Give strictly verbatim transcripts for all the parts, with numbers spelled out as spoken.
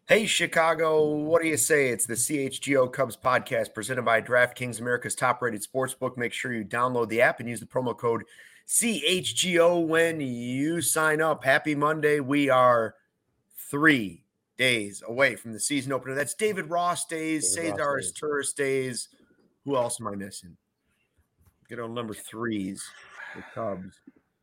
Hey, Chicago, what do you say? It's the C H G O Cubs podcast presented by DraftKings, America's top-rated sportsbook. Make sure you download the app and use the promo code C H G O when you sign up. Happy Monday. We are three days away from the season opener. That's David Ross days, David Cesar Ross days. Turris days. Who else am I missing? Get on number threes, the Cubs.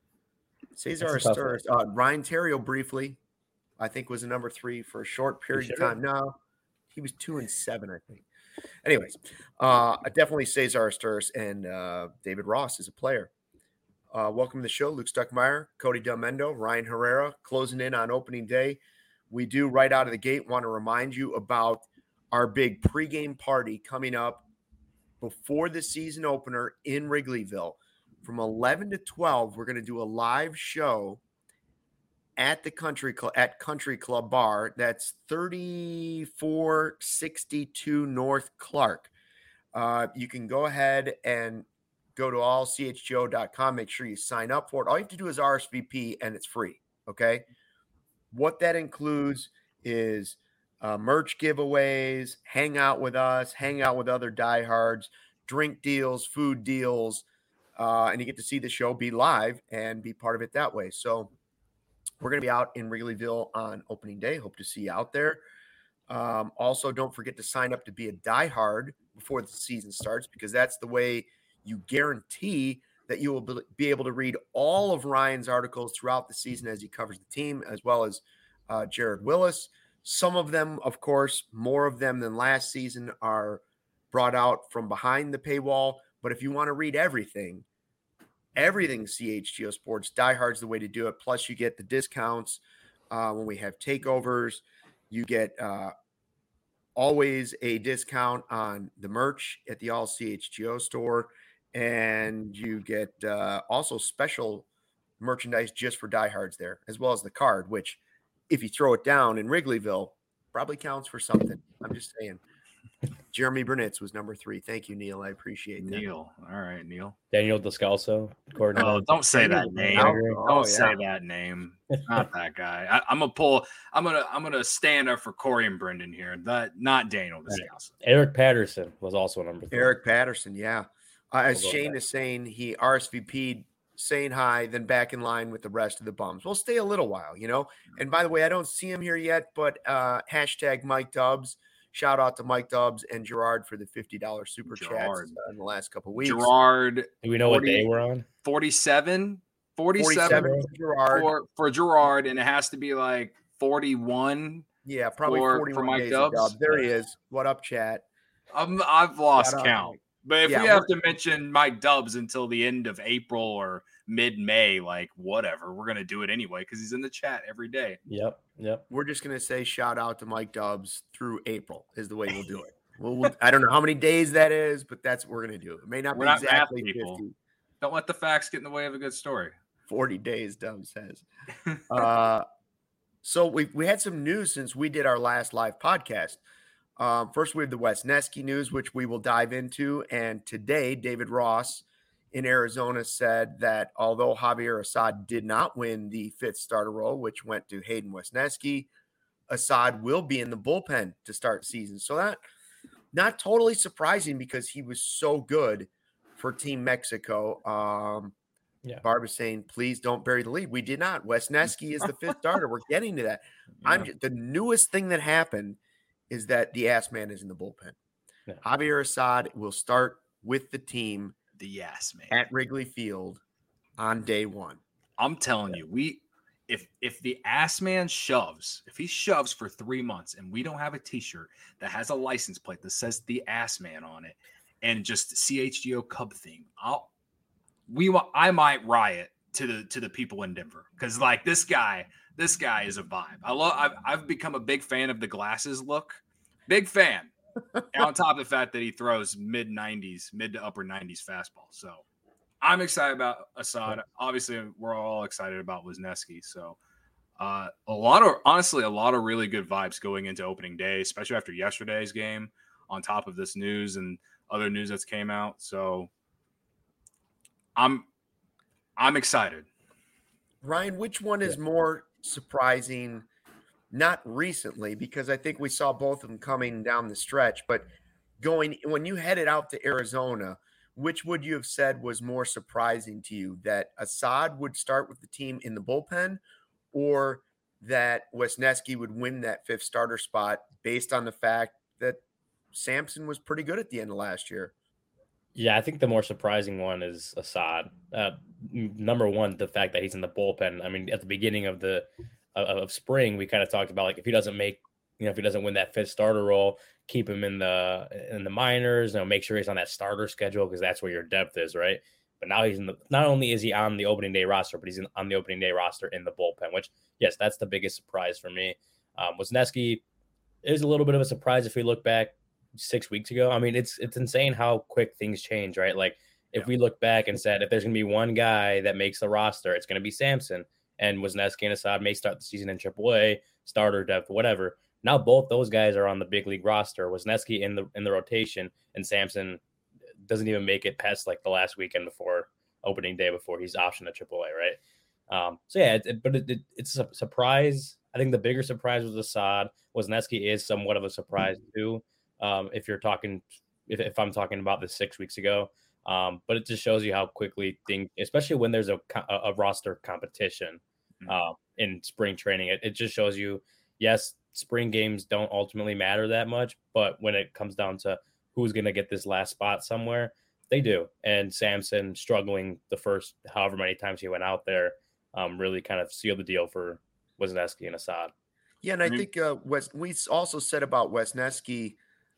Cesar That's a tough Turris, uh, Ryan Terrio briefly. I think was a number three for a short period of time. No, he was two and seven, I think. Anyways, uh, definitely Cesar Sturz and uh, David Ross is a player. Uh, welcome to the show, Luke Stuckmeyer, Cody Delmendo, Ryan Herrera, closing in on opening day. We do right out of the gate want to remind you about our big pregame party coming up before the season opener in Wrigleyville. From eleven to twelve, we're going to do a live show at the country club at Country Club Bar. That's thirty-four sixty-two North Clark. Uh, you can go ahead and go to all c h g o dot com. Make sure you sign up for it. All you have to do is R S V P and it's free. Okay. What that includes is uh, merch giveaways, hang out with us, hang out with other diehards, drink deals, food deals, uh, and you get to see the show be live and be part of it that way. So we're going to be out in Wrigleyville on opening day. Hope to see you out there. Um, also, don't forget to sign up to be a diehard before the season starts, because that's the way you guarantee that you will be able to read all of Ryan's articles throughout the season as he covers the team, as well as uh, Jared Willis. Some of them, of course, more of them than last season, are brought out from behind the paywall. But if you want to read everything, Everything C H G O Sports, diehard's the way to do it. Plus, you get the discounts uh, when we have takeovers. You get uh, always a discount on the merch at the All C H G O store. And you get uh, also special merchandise just for diehards there, as well as the card, which if you throw it down in Wrigleyville, probably counts for something. I'm just saying. Jeremy Burnitz was number three. Thank you, Neil. I appreciate that. Neil. All right, Neil. Daniel Descalso. Gordon. Oh, don't say that name. Oh, don't yeah. say that name. Not that guy. I, I'm gonna pull. I'm gonna. I'm gonna stand up for Corey and Brendan here. That not Daniel Descalso. Eric Patterson was also number three. Eric Patterson, yeah. Uh, as We'll go Shane back. is saying, he R S V P'd saying hi, then back in line with the rest of the bums. We'll stay a little while, you know. And by the way, I don't see him here yet, but uh, hashtag Mike Dubs. Shout out to Mike Dubs and Gerard for the fifty dollars super Gerard. chats uh, in the last couple of weeks. Gerard. Do we know forty, what day we're on? forty-seven. forty-seven, forty-seven for Gerard. for, for Gerard, and it has to be like forty-one. Yeah, probably for- forty-one for Mike days of Dubs. Dubs. There he is. What up, chat? I'm, I've lost Shout out, count. Mike. But if Yeah, we have to mention Mike Dubs until the end of April or mid-May, like whatever, we're gonna do it anyway because he's in the chat every day. Yep. Yep. We're just going to say shout out to Mike Dubs through April is the way we'll do it. We'll, we'll, I don't know how many days that is, but that's what we're going to do. It may not We're be not math exactly people. fifty. Don't let the facts get in the way of a good story. forty days, Dubs says. uh, so we we had some news since we did our last live podcast. Um, first, we have the Wesneski news, which we will dive into. And today, David Ross in Arizona said that although Javier Assad did not win the fifth starter role, which went to Hayden Wesneski, Assad will be in the bullpen to start the season. So that not totally surprising because he was so good for Team Mexico. Um, Yeah. Barb is saying, please don't bury the lead. We did not. Wesneski is the fifth starter. We're getting to that. I'm just, the newest thing that happened is that the ass man is in the bullpen. Yeah. Javier Assad will start with the team The yes man. at Wrigley Field on day one. I'm telling you, we if if the ass man shoves, if he shoves for three months and we don't have a T-shirt that has a license plate that says the ass man on it and just C H G O Cub theme, I'll we wa- I might riot to the to the people in Denver because like this guy, this guy is a vibe. I love. I've I've become a big fan of the glasses look. Big fan. And on top of the fact that he throws mid nineties, mid to upper nineties fastball. So I'm excited about Assad. Obviously, we're all excited about Wesneski. So uh, a lot of, honestly, a lot of really good vibes going into opening day, especially after yesterday's game, on top of this news and other news that's came out. So I'm, I'm excited. Ryan, which one is more surprising, not recently, because I think we saw both of them coming down the stretch, but going when you headed out to Arizona, which would you have said was more surprising to you, that Assad would start with the team in the bullpen, or that Wesneski would win that fifth starter spot based on the fact that Sampson was pretty good at the end of last year? Yeah, I think the more surprising one is Assad. Uh, number one, the fact that he's in the bullpen. I mean, at the beginning of the of, of spring, we kind of talked about like if he doesn't make, you know, if he doesn't win that fifth starter role, keep him in the in the minors. You know, make sure he's on that starter schedule because that's where your depth is, right? But now he's in the. Not only is he on the opening day roster, but he's in, on the opening day roster in the bullpen. Which, yes, that's the biggest surprise for me. Um, Wesneski is a little bit of a surprise if we look back six weeks ago. I mean, it's it's insane how quick things change, right? Like if yeah. we look back and said if there's gonna be one guy that makes the roster, it's gonna be Sampson, and Wesneski and Assad may start the season in triple A, starter depth, whatever. Now both those guys are on the big league roster. Wesneski in the in the rotation, and Sampson doesn't even make it past like the last weekend before opening day before he's optioned to triple A, right? Um, so yeah, it, it, but it, it, it's a surprise. I think the bigger surprise was Assad. Wesneski is somewhat of a surprise too. Um, if you're talking, if, if I'm talking about this six weeks ago, um, but it just shows you how quickly things, especially when there's a, a, a roster competition uh, in spring training, it, it just shows you, yes, spring games don't ultimately matter that much, but when it comes down to who's going to get this last spot somewhere, they do. And Sampson struggling the first however many times he went out there um, really kind of sealed the deal for Wesneski and Assad. Yeah, and I think uh, Wes, we also said about Wesneski,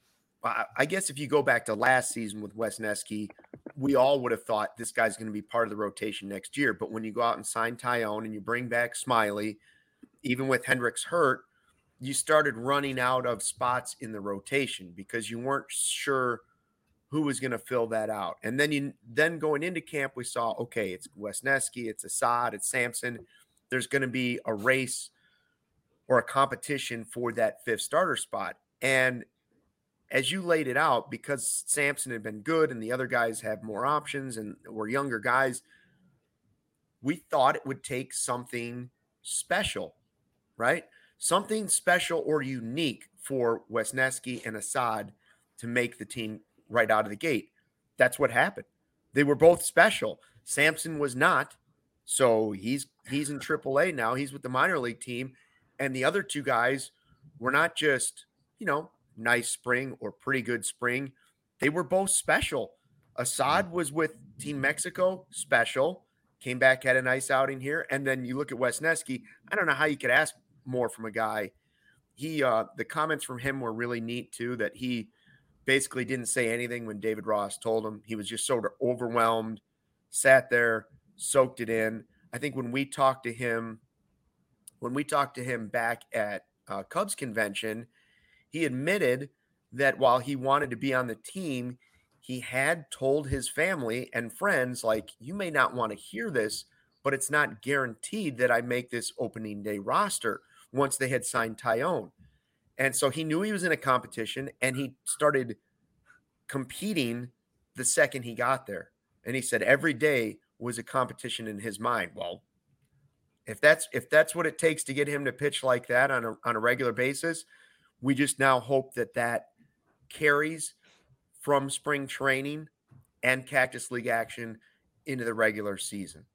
I guess if you go back to last season with Wesneski, we all would have thought this guy's going to be part of the rotation next year. But when you go out and sign Tyone and you bring back Smiley, even with Hendricks hurt, you started running out of spots in the rotation because you weren't sure who was going to fill that out. And then you then going into camp, we saw, okay, it's Wesneski, it's Assad, it's Sampson. There's going to be a race or a competition for that fifth starter spot. And as you laid it out, because Sampson had been good and the other guys have more options and were younger guys, we thought it would take something special, right? Something special or unique for Wesneski and Assad to make the team right out of the gate. That's what happened. They were both special. Sampson was not. So he's he's in triple A now. He's with the minor league team. And the other two guys were not just, you know, nice spring or pretty good spring. They were both special. Assad was with Team Mexico, special, came back, had a nice outing here. And then you look at Wesneski. I don't know how you could ask more from a guy. He, uh, the comments from him were really neat too, that he basically didn't say anything when David Ross told him. He was just sort of overwhelmed, sat there, soaked it in. I think when we talked to him, when we talked to him back at uh, Cubs convention, he admitted that while he wanted to be on the team, he had told his family and friends, like, you may not want to hear this, but it's not guaranteed that I make this opening day roster once they had signed Tyone. And so he knew he was in a competition and he started competing the second he got there. And he said every day was a competition in his mind. Well, if that's if that's what it takes to get him to pitch like that on a on a regular basis, we just now hope that that carries from spring training and Cactus League action into the regular season.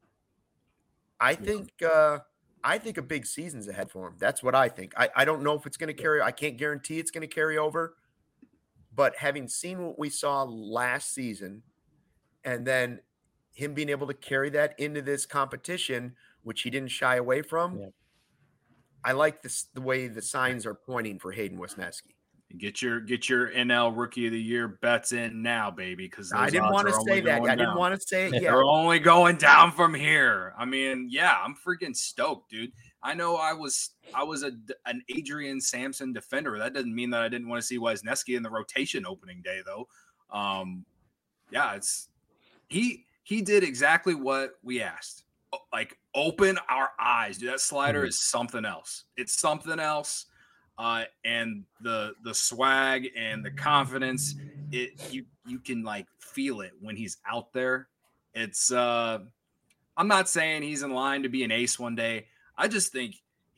I think uh, I think a big season's ahead for him. That's what I think. I, I don't know if it's going to carry. I can't guarantee it's going to carry over. But having seen what we saw last season and then him being able to carry that into this competition, which he didn't shy away from, yeah. I like this the way the signs are pointing for Hayden Wesneski. Get your get your N L Rookie of the Year bets in now, baby. Because I didn't want to say that. I didn't want to say it. Yeah, they're only going down from here. I mean, yeah, I'm freaking stoked, dude. I know I was I was a an Adrian Sampson defender. That doesn't mean that I didn't want to see Wesneski in the rotation opening day, though. Um, yeah, it's he he did exactly what we asked. Like, open our eyes, dude. That slider mm-hmm. is something else. It's something else. Uh, and the the swag and the confidence, it you you can like feel it when he's out there. It's uh, I'm not saying he's in line to be an ace one day. I just think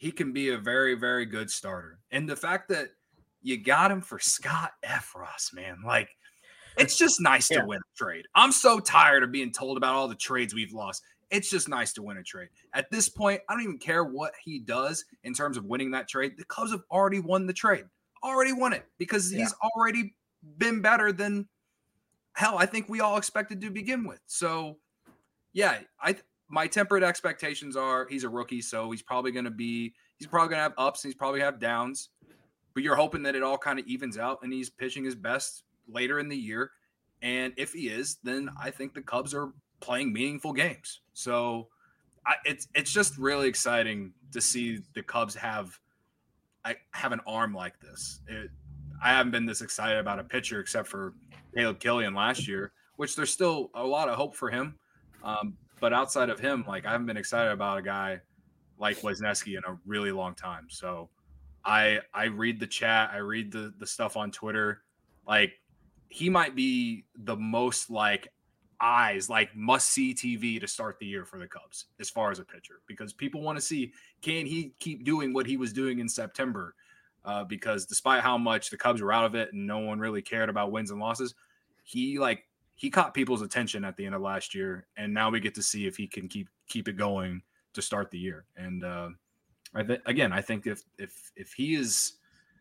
he can be a very, very good starter. And the fact that you got him for Scott Effross, man, like it's just nice yeah. to win a trade. I'm so tired of being told about all the trades we've lost. It's just nice to win a trade. At this point, I don't even care what he does in terms of winning that trade. The Cubs have already won the trade, already won it because yeah. he's already been better than hell. I think we all expected to begin with. So, yeah, I my tempered expectations are he's a rookie, so he's probably going to be he's probably going to have ups and he's probably have downs. But you're hoping that it all kind of evens out and he's pitching his best later in the year. And if he is, then I think the Cubs are playing meaningful games. So I, it's it's just really exciting to see the Cubs have I have an arm like this. It, I haven't been this excited about a pitcher except for Caleb Killian last year, which there's still a lot of hope for him. Um, but outside of him, like I haven't been excited about a guy like Wesneski in a really long time. So I I read the chat, I read the the stuff on Twitter. Like he might be the most like eyes, like must see T V to start the year for the Cubs as far as a pitcher, because people want to see, can he keep doing what he was doing in September? Uh, because despite how much the Cubs were out of it and no one really cared about wins and losses, he like he caught people's attention at the end of last year, and now we get to see if he can keep keep it going to start the year. And uh, I th- again, I think if if if he is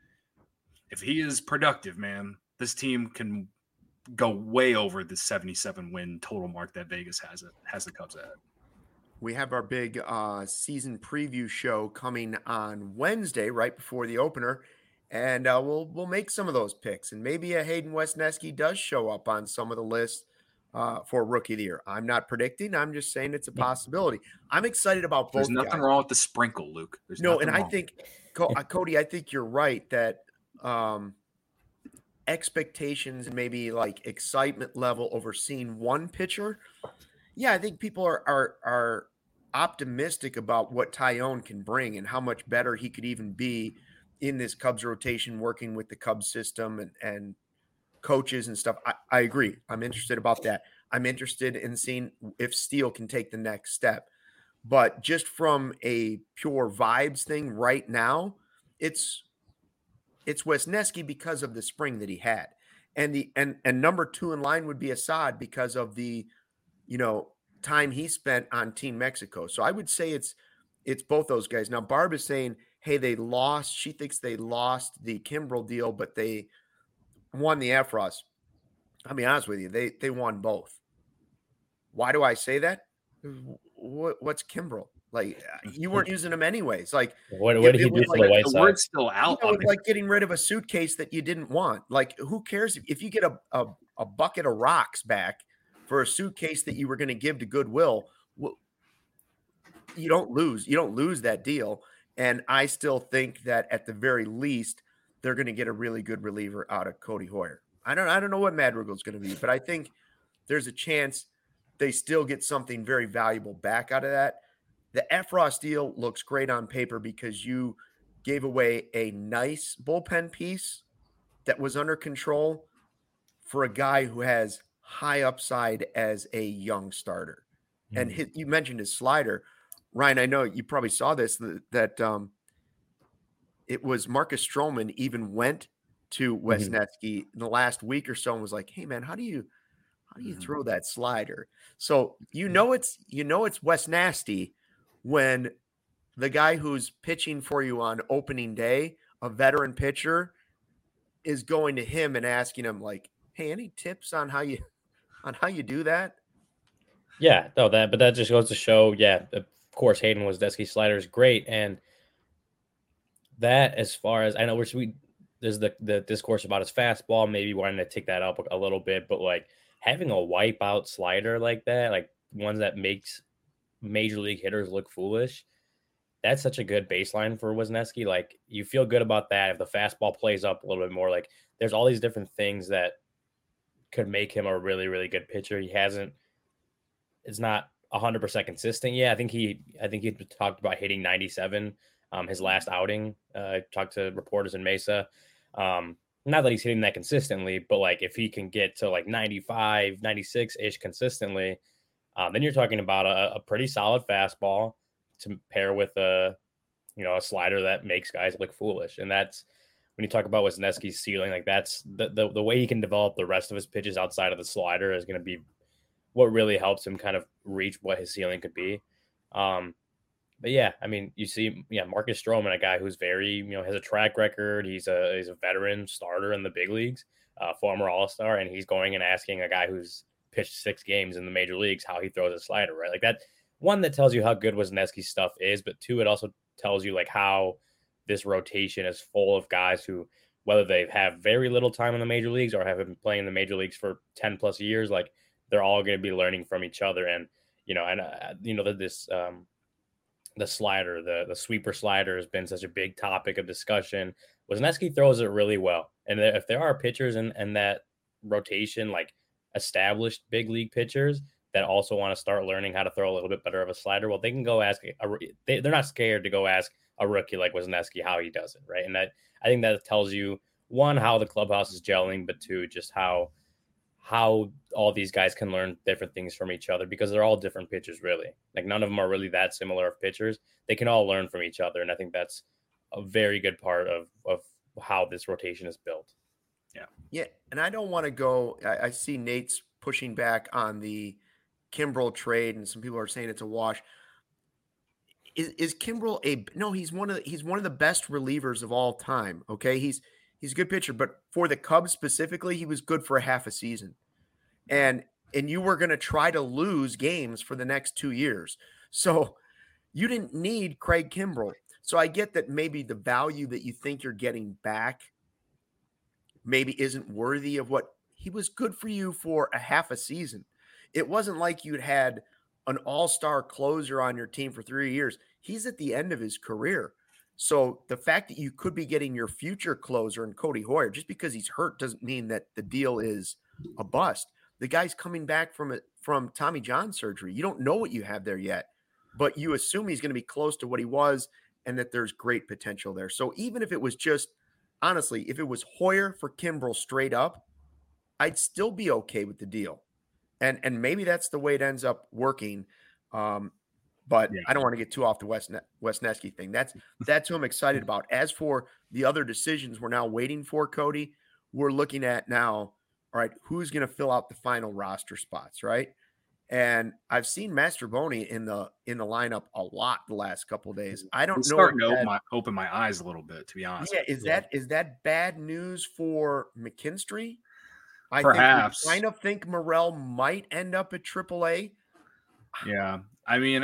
if he is productive, man, this team can go way over the seventy-seven win total mark that Vegas has it has the Cubs at. We have our big uh, season preview show coming on Wednesday, right before the opener, and uh, we'll we'll make some of those picks, and maybe a Hayden Wesneski does show up on some of the lists uh, for Rookie of the Year. I'm not predicting; I'm just saying it's a possibility. I'm excited about both. There's nothing guys. wrong with the sprinkle, Luke. There's no, and wrong. I think Cody, I think you're right that. Um, expectations and maybe like excitement level over seeing one pitcher. Yeah, I think people are are are optimistic about what Taillon can bring and how much better he could even be in this Cubs rotation, working with the Cubs system and, and coaches and stuff. I, I agree. I'm interested about that. I'm interested in seeing if Steele can take the next step. But just from a pure vibes thing right now, it's It's Wesneski because of the spring that he had. And the and and number two in line would be Assad because of the, you know, time he spent on Team Mexico. So I would say it's it's both those guys. Now Barb is saying, hey, they lost. She thinks they lost the Kimbrel deal, but they won the Effross. I'll be honest with you, they they won both. Why do I say that? What, what's Kimbrel? Like you weren't using them anyways. Like what, what did he do for like, the White the Sox? word's still out. You know, it's like getting rid of a suitcase that you didn't want. Like who cares if, if you get a, a, a bucket of rocks back for a suitcase that you were going to give to Goodwill? Well, you don't lose. You don't lose that deal. And I still think that at the very least, they're going to get a really good reliever out of Cody Hoyer. I don't I don't know what Madrigal's going to be, but I think there's a chance they still get something very valuable back out of that. The Effross deal looks great on paper because you gave away a nice bullpen piece that was under control for a guy who has high upside as a young starter. Mm-hmm. And his, you mentioned his slider. Ryan, I know you probably saw this, that, that um, it was Marcus Stroman even went to Wesneski mm-hmm. in the last week or so and was like, hey, man, how do you how do you mm-hmm. throw that slider? So you know it's you know it's Wesnasty when the guy who's pitching for you on opening day, a veteran pitcher, is going to him and asking him like, hey, any tips on how you on how you do that? Yeah, no, that but that just goes to show, yeah, of course Hayden Wesneski's slider is great. And that, as far as I know, we're we there's the the discourse about his fastball, maybe wanting to take that up a little bit, but like having a wipeout slider like that, like ones that makes major league hitters look foolish, that's such a good baseline for Wesneski. Like you feel good about that. If the fastball plays up a little bit more, like there's all these different things that could make him a really, really good pitcher. He hasn't, it's not a hundred percent consistent. Yeah. I think he, I think he talked about hitting ninety-seven, um, his last outing, uh, talked to reporters in Mesa. Um, not that he's hitting that consistently, but like if he can get to like ninety-five, ninety-six ish consistently, um, then you're talking about a, a pretty solid fastball to pair with a you know, a slider that makes guys look foolish. And that's when you talk about Wesneski's ceiling, like that's the, the, the way he can develop the rest of his pitches outside of the slider is going to be what really helps him kind of reach what his ceiling could be. Um, but yeah, I mean, you see, yeah, Marcus Stroman, a guy who's very, you know, has a track record. He's a, he's a veteran starter in the big leagues, uh, former All-Star, and he's going and asking a guy who's pitched six games in the major leagues how he throws a slider, right? Like that, one, that tells you how good Wesneski's stuff is, but two, it also tells you like how this rotation is full of guys who, whether they have very little time in the major leagues or have been playing in the major leagues for ten plus years, like they're all going to be learning from each other. And, you know, and, uh, you know, this, um, the slider, the, the sweeper slider has been such a big topic of discussion. Wesneski throws it really well. And if there are pitchers in, in that rotation, like established big league pitchers that also want to start learning how to throw a little bit better of a slider, well, they can go ask, a, they, they're not scared to go ask a rookie like Wesneski how he does it, right? And that, I think that tells you, one, how the clubhouse is gelling, but two, just how, how all these guys can learn different things from each other, because they're all different pitchers, really. Like none of them are really that similar of pitchers. They can all learn from each other. And I think that's a very good part of, of how this rotation is built. Yeah. Yeah. And I don't want to go, I, I see Nate's pushing back on the Kimbrel trade, and some people are saying it's a wash. Is, is Kimbrel a, no, he's one of the, he's one of the best relievers of all time. Okay. He's, he's a good pitcher, but for the Cubs specifically, he was good for a half a season. And, and you were going to try to lose games for the next two years. So you didn't need Craig Kimbrel. So I get that maybe the value that you think you're getting back maybe isn't worthy of what he was good for you for a half a season. It wasn't like you'd had an all-star closer on your team for three years. He's at the end of his career. So the fact that you could be getting your future closer in Cody Hoyer, just because he's hurt doesn't mean that the deal is a bust. The guy's coming back from it from Tommy John surgery. You don't know what you have there yet, but you assume he's going to be close to what he was and that there's great potential there. So even if it was just, honestly, if it was Hoyer for Kimbrel straight up, I'd still be okay with the deal. And and maybe that's the way it ends up working. Um, but yeah. I don't want to get too off the West Wesneski thing. That's that's who I'm excited about. As for the other decisions we're now waiting for, Cody, we're looking at now, all right, who's going to fill out the final roster spots, right? And I've seen Mastrobuoni in the in the lineup a lot the last couple of days. I don't I'm know. Starting to open my, open my eyes a little bit, to be honest. Yeah, is yeah. that is that bad news for McKinstry? I Perhaps. Think, I kind of think Morel might end up at triple A. Yeah, I mean,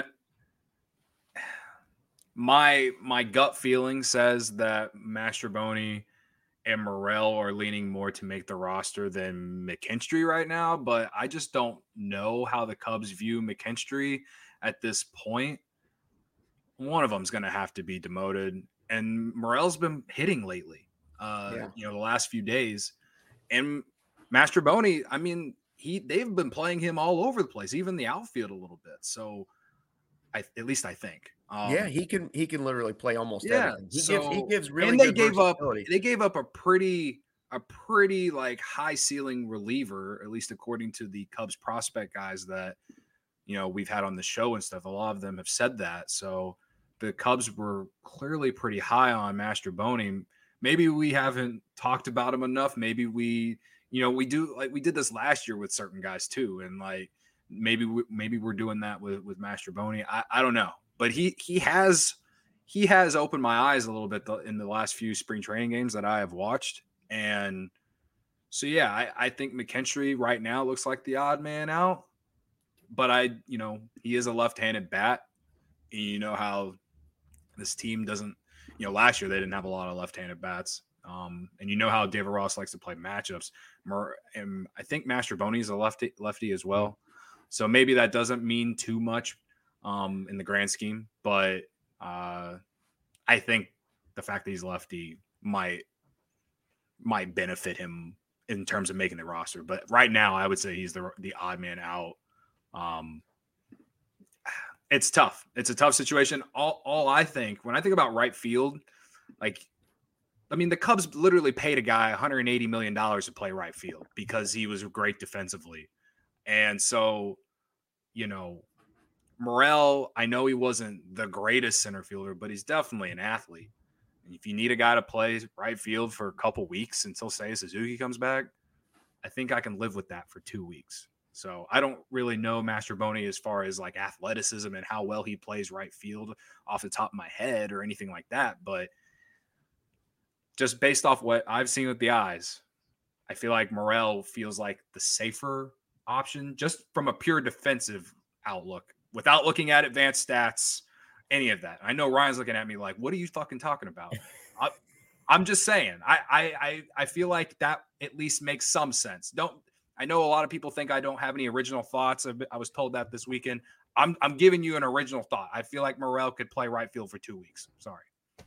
my my gut feeling says that Mastrobuoni and Morel are leaning more to make the roster than McKinstry right now, but I just don't know how the Cubs view McKinstry at this point. One of them's going to have to be demoted, and Morel's been hitting lately, uh, yeah. you know, the last few days. And Mastrobuoni, I mean, he they've been playing him all over the place, even the outfield a little bit. So, I at least I think. Um, yeah, he can he can literally play almost yeah, everything. He so, gives he gives really and they good gave up they gave up a pretty a pretty like high ceiling reliever, at least according to the Cubs prospect guys that you know we've had on the show and stuff. A lot of them have said that. So the Cubs were clearly pretty high on Mastrobuoni. Maybe we haven't talked about him enough. Maybe we, you know, we do like we did this last year with certain guys too, and like maybe we, maybe we're doing that with with Mastrobuoni. I I don't know. But he he has he has opened my eyes a little bit in the last few spring training games that I have watched. And so, yeah, I, I think McKinstry right now looks like the odd man out. But, I, you know, he is a left-handed bat. And you know how this team doesn't – you know, last year they didn't have a lot of left-handed bats. Um, and you know how David Ross likes to play matchups. And I think Mastrobuoni is a lefty, lefty as well. So maybe that doesn't mean too much. Um, in the grand scheme, but uh, I think the fact that he's lefty might might benefit him in terms of making the roster. But right now, I would say he's the the odd man out. Um, it's tough. It's a tough situation. All all I think when I think about right field, like I mean, the Cubs literally paid a guy one hundred eighty million dollars to play right field because he was great defensively, and so you know. Morel, I know he wasn't the greatest center fielder, but he's definitely an athlete. And if you need a guy to play right field for a couple weeks until, say, Suzuki comes back, I think I can live with that for two weeks. So I don't really know Mastrobuoni as far as like athleticism and how well he plays right field off the top of my head or anything like that. But just based off what I've seen with the eyes, I feel like Morel feels like the safer option just from a pure defensive outlook without looking at advanced stats, any of that. I know Ryan's looking at me like, what are you fucking talking about? I, I'm just saying, I, I, I feel like that at least makes some sense. Don't, I know a lot of people think I don't have any original thoughts. I was told that this weekend. I'm, I'm giving you an original thought. I feel like Morel could play right field for two weeks. Sorry.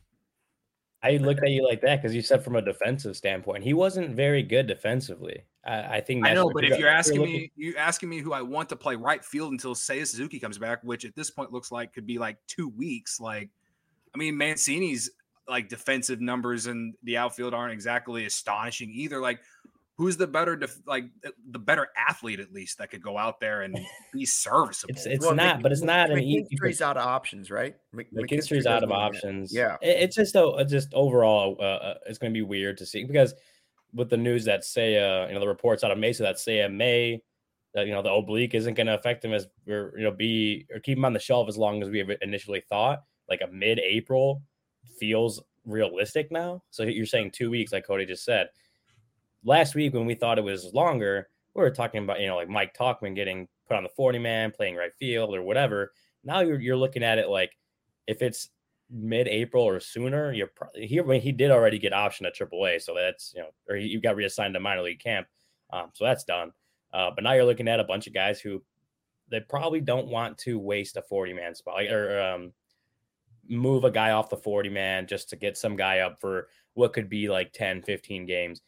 I looked at you like that because you said from a defensive standpoint, he wasn't very good defensively. I, I think that's I know, but if you're asking you're me, you asking me who I want to play right field until Seiya Suzuki comes back, which at this point looks like could be like two weeks. Like, I mean, Mancini's like defensive numbers in the outfield aren't exactly astonishing either. Like, who's the better, def- like the better athlete at least that could go out there and be serviceable? It's, it's well, not, Mc, but it's not McKinstry's an McKinstry's out of options, right? Mc, McKinstry's out of options. Yeah, it, it's just a just overall, uh, it's going to be weird to see because with the news that Seiya, you know, the reports out of Mesa that Seiya may, that you know, the oblique isn't going to affect him as or you know be or keep him on the shelf as long as we have initially thought. Like a mid-April feels realistic now. So you're saying two weeks, like Cody just said. Last week when we thought it was longer, we were talking about, you know, like Mike Tauchman getting put on the forty man, playing right field or whatever. Now you're you're looking at it like if it's mid-April or sooner, you're probably here. When he did already get optioned at triple A, so that's, you know, or he, you got reassigned to minor league camp, um, so that's done. Uh, but now you're looking at a bunch of guys who they probably don't want to waste a forty man spot like, or um, move a guy off the forty man just to get some guy up for what could be like ten, fifteen games.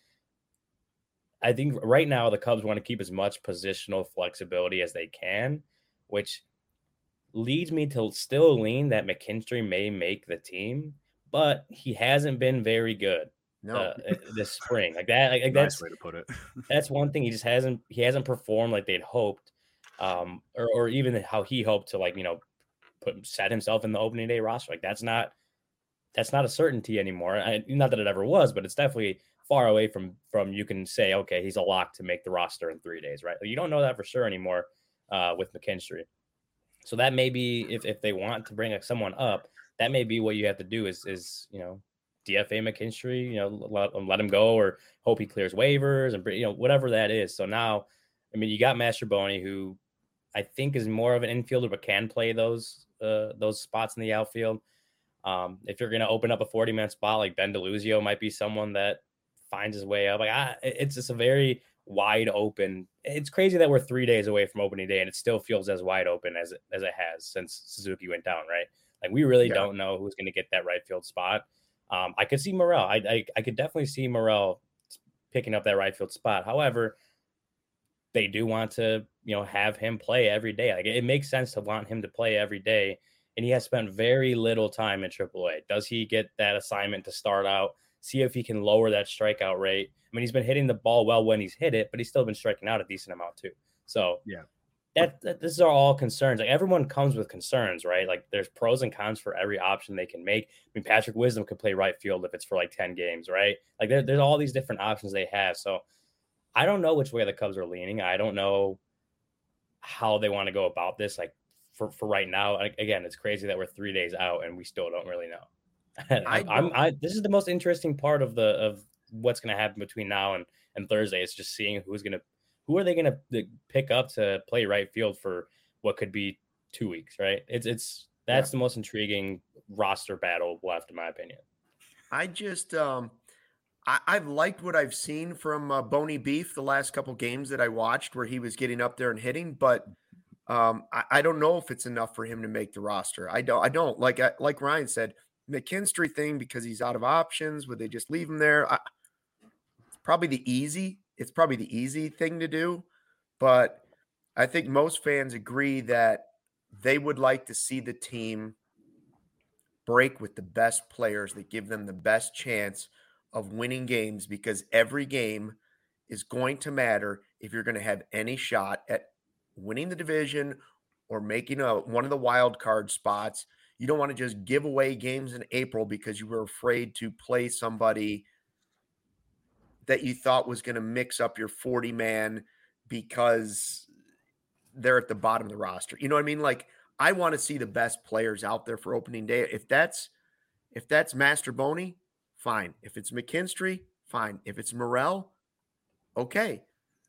I think right now the Cubs want to keep as much positional flexibility as they can, which leads me to still lean that McKinstry may make the team, but he hasn't been very good no. uh, this spring. Like that, like, like nice that's way to put it. That's one thing. He just hasn't he hasn't performed like they'd hoped, um, or or even how he hoped to, like, you know, put set himself in the opening day roster. Like that's not that's not a certainty anymore. I, not that it ever was, but it's definitely far away from from you can say, okay, he's a lock to make the roster in three days, right? You don't know that for sure anymore uh, with McKinstry. So that may be if, if they want to bring someone up, that may be what you have to do is is you know D F A McKinstry, you know, let, let him go or hope he clears waivers and you know whatever that is. So now, I mean, you got Mastrobuoni, who I think is more of an infielder but can play those uh, those spots in the outfield. Um, if you're going to open up a forty man spot, like Ben DeLuzio might be someone that finds his way up. Like I, it's just a very wide open. It's crazy that we're three days away from opening day and it still feels as wide open as it, as it has since Suzuki went down, right? Like we really yeah. don't know who's going to get that right field spot. Um, I could see Morel. I, I I could definitely see Morel picking up that right field spot. However, they do want to, you know, have him play every day. Like it makes sense to want him to play every day. And he has spent very little time in triple A. Does he get that assignment to start out? See if he can lower that strikeout rate. I mean, he's been hitting the ball well when he's hit it, but he's still been striking out a decent amount too. So yeah, that, that this are all concerns. Like everyone comes with concerns, right? Like there's pros and cons for every option they can make. I mean, Patrick Wisdom could play right field if it's for like ten games, right? Like there, there's all these different options they have. So I don't know which way the Cubs are leaning. I don't know how they want to go about this. Like for, for right now, again, it's crazy that we're three days out and we still don't really know. I, I'm I this is the most interesting part of the of what's going to happen between now and, and Thursday. It's just seeing who's going to who are they going to pick up to play right field for what could be two weeks, right? It's it's that's yeah. the most intriguing roster battle left, in my opinion. I just um I, I've liked what I've seen from uh, Boney Beef the last couple games that I watched where he was getting up there and hitting, but um I, I don't know if it's enough for him to make the roster. I don't I don't like I, like Ryan said. McKinstry thing because he's out of options. Would they just leave him there? I, it's probably the easy. It's probably the easy thing to do, but I think most fans agree that they would like to see the team break with the best players that give them the best chance of winning games because every game is going to matter if you're going to have any shot at winning the division or making a one of the wild card spots. You don't want to just give away games in April because you were afraid to play somebody that you thought was going to mix up your forty man because they're at the bottom of the roster. You know what I mean? Like, I want to see the best players out there for opening day. If that's if that's Master Boney, fine. If it's McKinstry, fine. If it's Morrell, okay.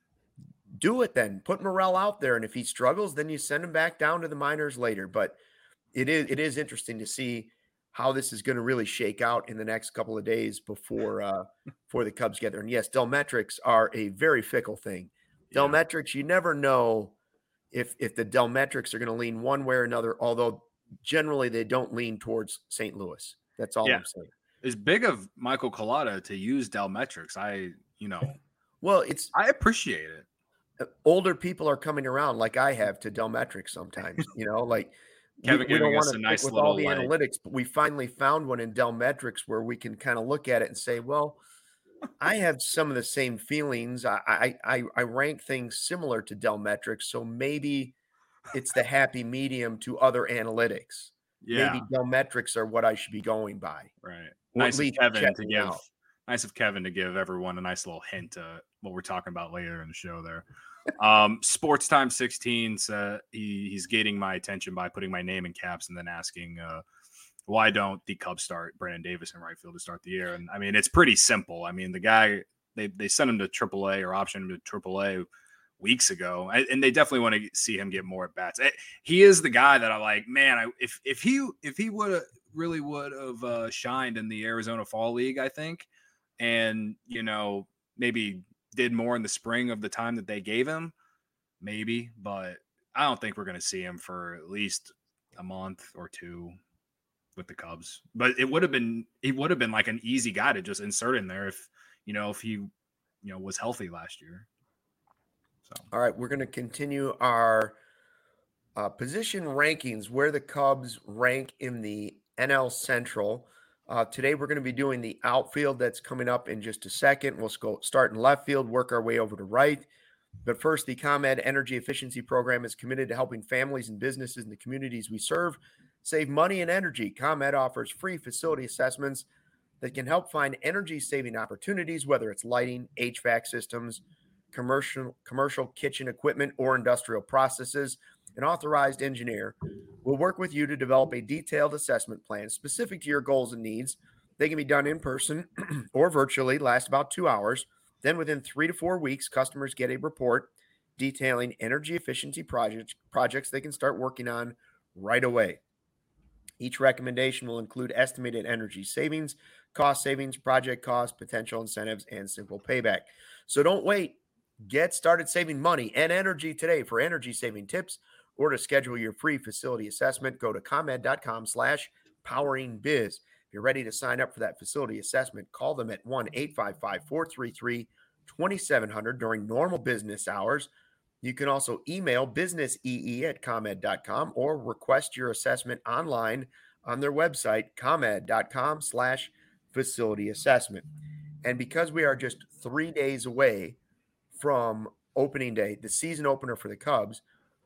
Do it then. Put Morrell out there, and if he struggles, then you send him back down to the minors later. But it is it is interesting to see how this is going to really shake out in the next couple of days before uh, before the Cubs get there. And yes, Delmetrics are a very fickle thing. Yeah. Delmetrics, you never know if if the Delmetrics are going to lean one way or another, although generally they don't lean towards Saint Louis. That's all yeah. I'm saying. It's big of Michael Collada to use Delmetrics. I, you know, well, it's I appreciate it. Older people are coming around like I have to Delmetrics sometimes, you know, like Kevin we, we don't want to nice with little all the like... analytics, but we finally found one in Delmetrics where we can kind of look at it and say, well, I have some of the same feelings. I, I, I, I rank things similar to Delmetrics. So maybe it's the happy medium to other analytics. Yeah. Maybe Delmetrics are what I should be going by. Right. Nice of Kevin to give, out. nice of Kevin to give everyone a nice little hint of what we're talking about later in the show there. um, Sports Time sixteen, uh, he, he's gating my attention by putting my name in caps and then asking, uh, why don't the Cubs start Brandon Davis in right field to start the year? And I mean, it's pretty simple. I mean, the guy, they, they sent him to triple A or optioned him to triple A weeks ago, and they definitely want to see him get more at bats. He is the guy that I like, man, I, if, if he, if he would have really would have uh, shined in the Arizona Fall League, I think, and, you know, maybe did more in the spring of the time that they gave him, maybe, but I don't think we're going to see him for at least a month or two with the Cubs. But it would have been, he would have been like an easy guy to just insert in there if, you know, if he, you know, was healthy last year. So, all right, we're going to continue our uh, position rankings, where the Cubs rank in the N L Central. Uh, today, we're going to be doing the outfield. That's coming up in just a second. We'll go start in left field, work our way over to right. But first, the ComEd Energy Efficiency Program is committed to helping families and businesses in the communities we serve save money and energy. ComEd offers free facility assessments that can help find energy-saving opportunities, whether it's lighting, H V A C systems, commercial, commercial kitchen equipment, or industrial processes. An authorized engineer will work with you to develop a detailed assessment plan specific to your goals and needs. They can be done in person or virtually, last about two hours. Then within three to four weeks, customers get a report detailing energy efficiency projects, projects they can start working on right away. Each recommendation will include estimated energy savings, cost savings, project costs, potential incentives, and simple payback. So don't wait. Get started saving money and energy today. For energy saving tips or to schedule your free facility assessment, go to ComEd.com slash powering biz. If you're ready to sign up for that facility assessment, call them at one eight five five, four three three, two seven zero zero during normal business hours. You can also email businessee at ComEd dot com or request your assessment online on their website, ComEd.com slash facility assessment. And because we are just three days away from opening day, the season opener for the Cubs,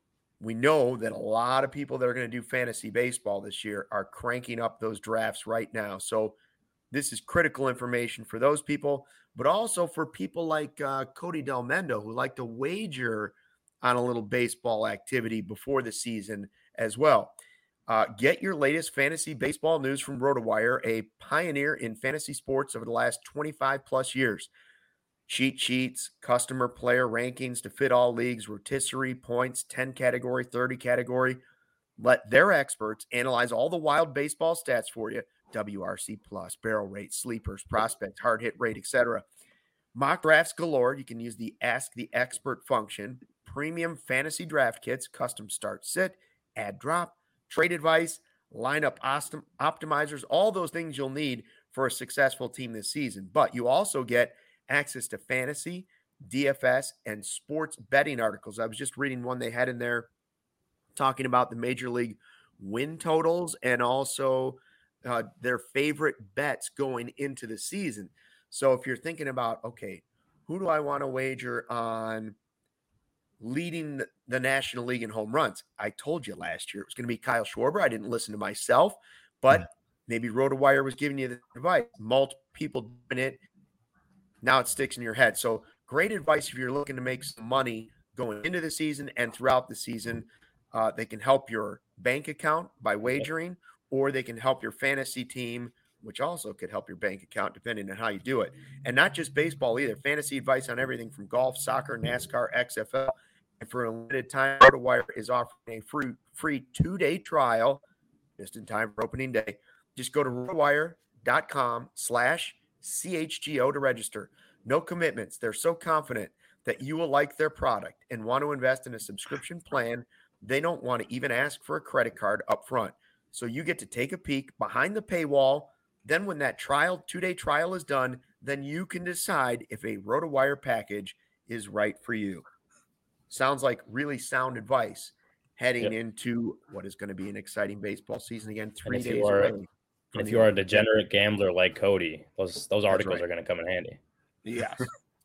we know that a lot of people that are going to do fantasy baseball this year are cranking up those drafts right now. So this is critical information for those people, but also for people like uh, Cody Delmendo, who like to wager on a little baseball activity before the season as well. Uh, get your latest fantasy baseball news from RotoWire, a pioneer in fantasy sports over the last twenty-five plus years. Cheat sheets, customer player rankings to fit all leagues, rotisserie points, ten category, thirty category. Let their experts analyze all the wild baseball stats for you. W R C plus, barrel rate, sleepers, prospect, hard hit rate, et cetera. Mock drafts galore. You can use the Ask the Expert function. Premium fantasy draft kits, custom start sit, add drop, trade advice, lineup optimizers, all those things you'll need for a successful team this season. But you also get access to fantasy, D F S, and sports betting articles. I was just reading one they had in there talking about the Major League win totals and also uh, their favorite bets going into the season. So if you're thinking about, okay, who do I want to wager on leading the, the National League in home runs. I told you last year it was going to be Kyle Schwarber. I didn't listen to myself, but mm-hmm. maybe RotoWire was giving you the advice. Multiple people doing it. Now it sticks in your head. So great advice if you're looking to make some money going into the season and throughout the season. Uh, they can help your bank account by wagering, or they can help your fantasy team, which also could help your bank account depending on how you do it. And not just baseball either. Fantasy advice on everything from golf, soccer, NASCAR, X F L. And for a limited time, RotoWire is offering a free, free two-day trial just in time for opening day. Just go to rotowire.com slash CHGO to register. No commitments. They're so confident that you will like their product and want to invest in a subscription plan. They don't want to even ask for a credit card up front. So you get to take a peek behind the paywall. Then when that trial, two-day trial is done, then you can decide if a RotoWire package is right for you. Sounds like really sound advice heading yep. into what is going to be an exciting baseball season again, three days are, away. If you are a degenerate gambler like Cody, those those articles right. are going to come in handy. Yes.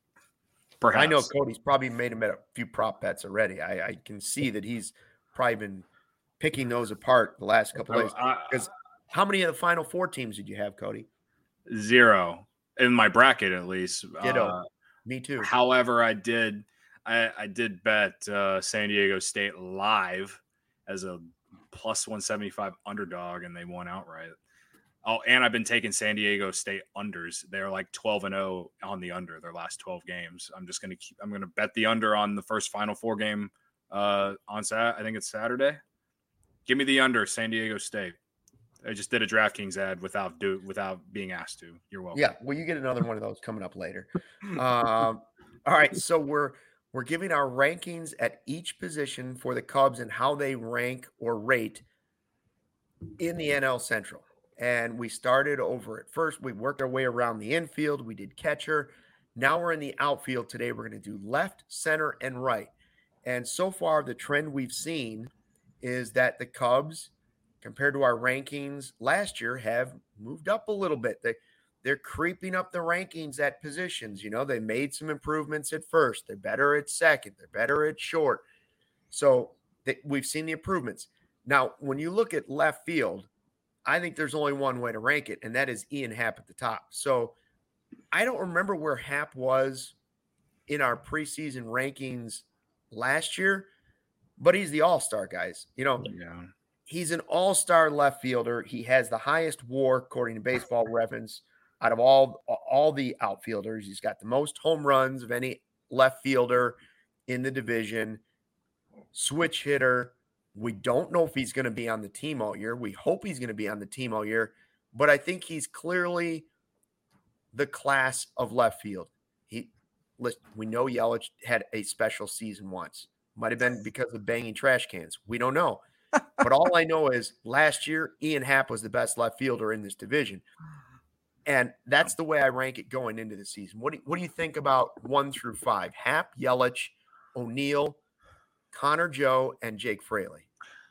I know Cody's probably made him at a few prop bets already. I, I can see that he's probably been picking those apart the last couple of days. Because how many of the Final Four teams did you have, Cody? Zero. In my bracket, at least. Ditto. Uh, Me too. However, I did I, I did bet uh, San Diego State live as a plus one seventy-five underdog, and they won outright. Oh, and I've been taking San Diego State unders. They're like twelve and oh on the under their last twelve games. I'm just going to keep, I'm going to bet the under on the first Final Four game uh, on Sat. I think it's Saturday. Give me the under, San Diego State. I just did a DraftKings ad without do without being asked to. You're welcome. Yeah, well, you get another one of those coming up later. Um, all right, so we're we're giving our rankings at each position for the Cubs and how they rank or rate in the N L Central. And we started over at first. We worked our way around the infield. We did catcher. Now we're in the outfield today. We're going to do left, center, and right. And so far, the trend we've seen is that the Cubs, compared to our rankings last year, have moved up a little bit. They, they're creeping up the rankings at positions. You know, they made some improvements at first. They're better at second. They're better at short. So they, we've seen the improvements. Now, when you look at left field, I think there's only one way to rank it, and that is Ian Happ at the top. So I don't remember where Happ was in our preseason rankings last year, but he's the all-star, guys. You know, yeah. He's an all-star left fielder. He has the highest WAR, according to Baseball Reference, out of all, all the outfielders. He's got the most home runs of any left fielder in the division. Switch hitter. We don't know if he's going to be on the team all year. We hope he's going to be on the team all year, but I think he's clearly the class of left field. He, listen, we know Yelich had a special season once. Might have been because of banging trash cans. We don't know. But all I know is last year, Ian Happ was the best left fielder in this division. And that's the way I rank it going into the season. What do, what do you think about one through five? Happ, Yelich, O'Neill, Connor Joe, and Jake Fraley.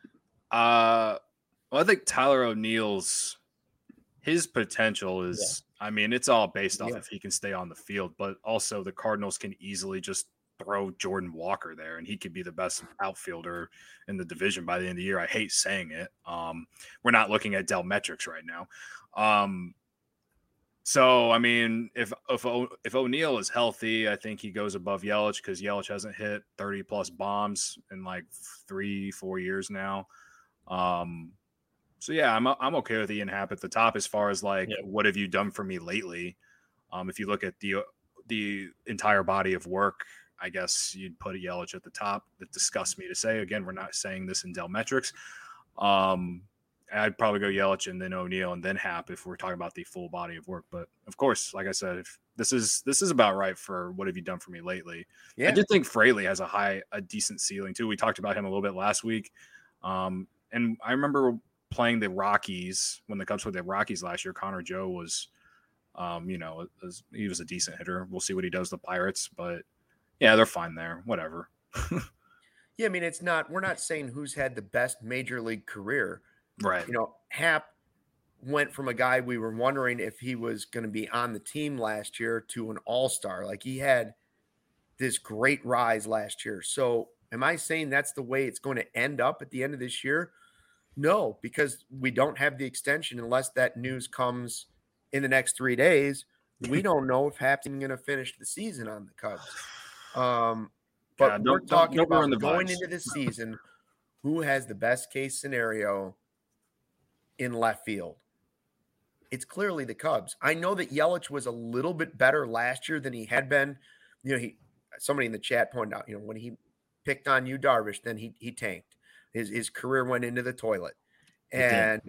Uh, well, I think Tyler O'Neill's his potential is, yeah. I mean, it's all based off yeah. if he can stay on the field, but also the Cardinals can easily just throw Jordan Walker there, and he could be the best outfielder in the division by the end of the year. I hate saying it. Um, we're not looking at Dell metrics right now. Um, So, I mean, if if if O'Neill is healthy, I think he goes above Yelich because Yelich hasn't hit thirty plus bombs in like three, four years now. Um, so yeah, I'm I'm okay with Ian Happ at the top as far as like, yeah. what have you done for me lately? Um, if you look at the the entire body of work, I guess you'd put a Yelich at the top. That disgusts me to say. Again, we're not saying this in Dell metrics. Um, I'd probably go Yelich and then O'Neill and then Happ if we're talking about the full body of work. But of course, like I said, if this is this is about right for what have you done for me lately. Yeah. I did think Fraley has a high, a decent ceiling too. We talked about him a little bit last week. Um, and I remember playing the Rockies when the Cubs played the Rockies last year. Connor Joe was, um, you know, was, he was a decent hitter. We'll see what he does with the Pirates, but yeah, they're fine there. Whatever. Yeah, I mean, it's not. We're not saying who's had the best major league career. Right. You know, Happ went from a guy we were wondering if he was going to be on the team last year to an all-star. Like he had this great rise last year. So am I saying that's the way it's going to end up at the end of this year? No, because we don't have the extension unless that news comes in the next three days. We don't know if Hap's even going to finish the season on the Cubs. Um, but Yeah, we're don't- talking don't- don't ruin about the going vibes. into this season, who has the best case scenario in left field. It's clearly the Cubs. I know that Yelich was a little bit better last year than he had been. You know, he somebody in the chat pointed out, you know, when he picked on you, Darvish, then he he tanked. His his career went into the toilet. And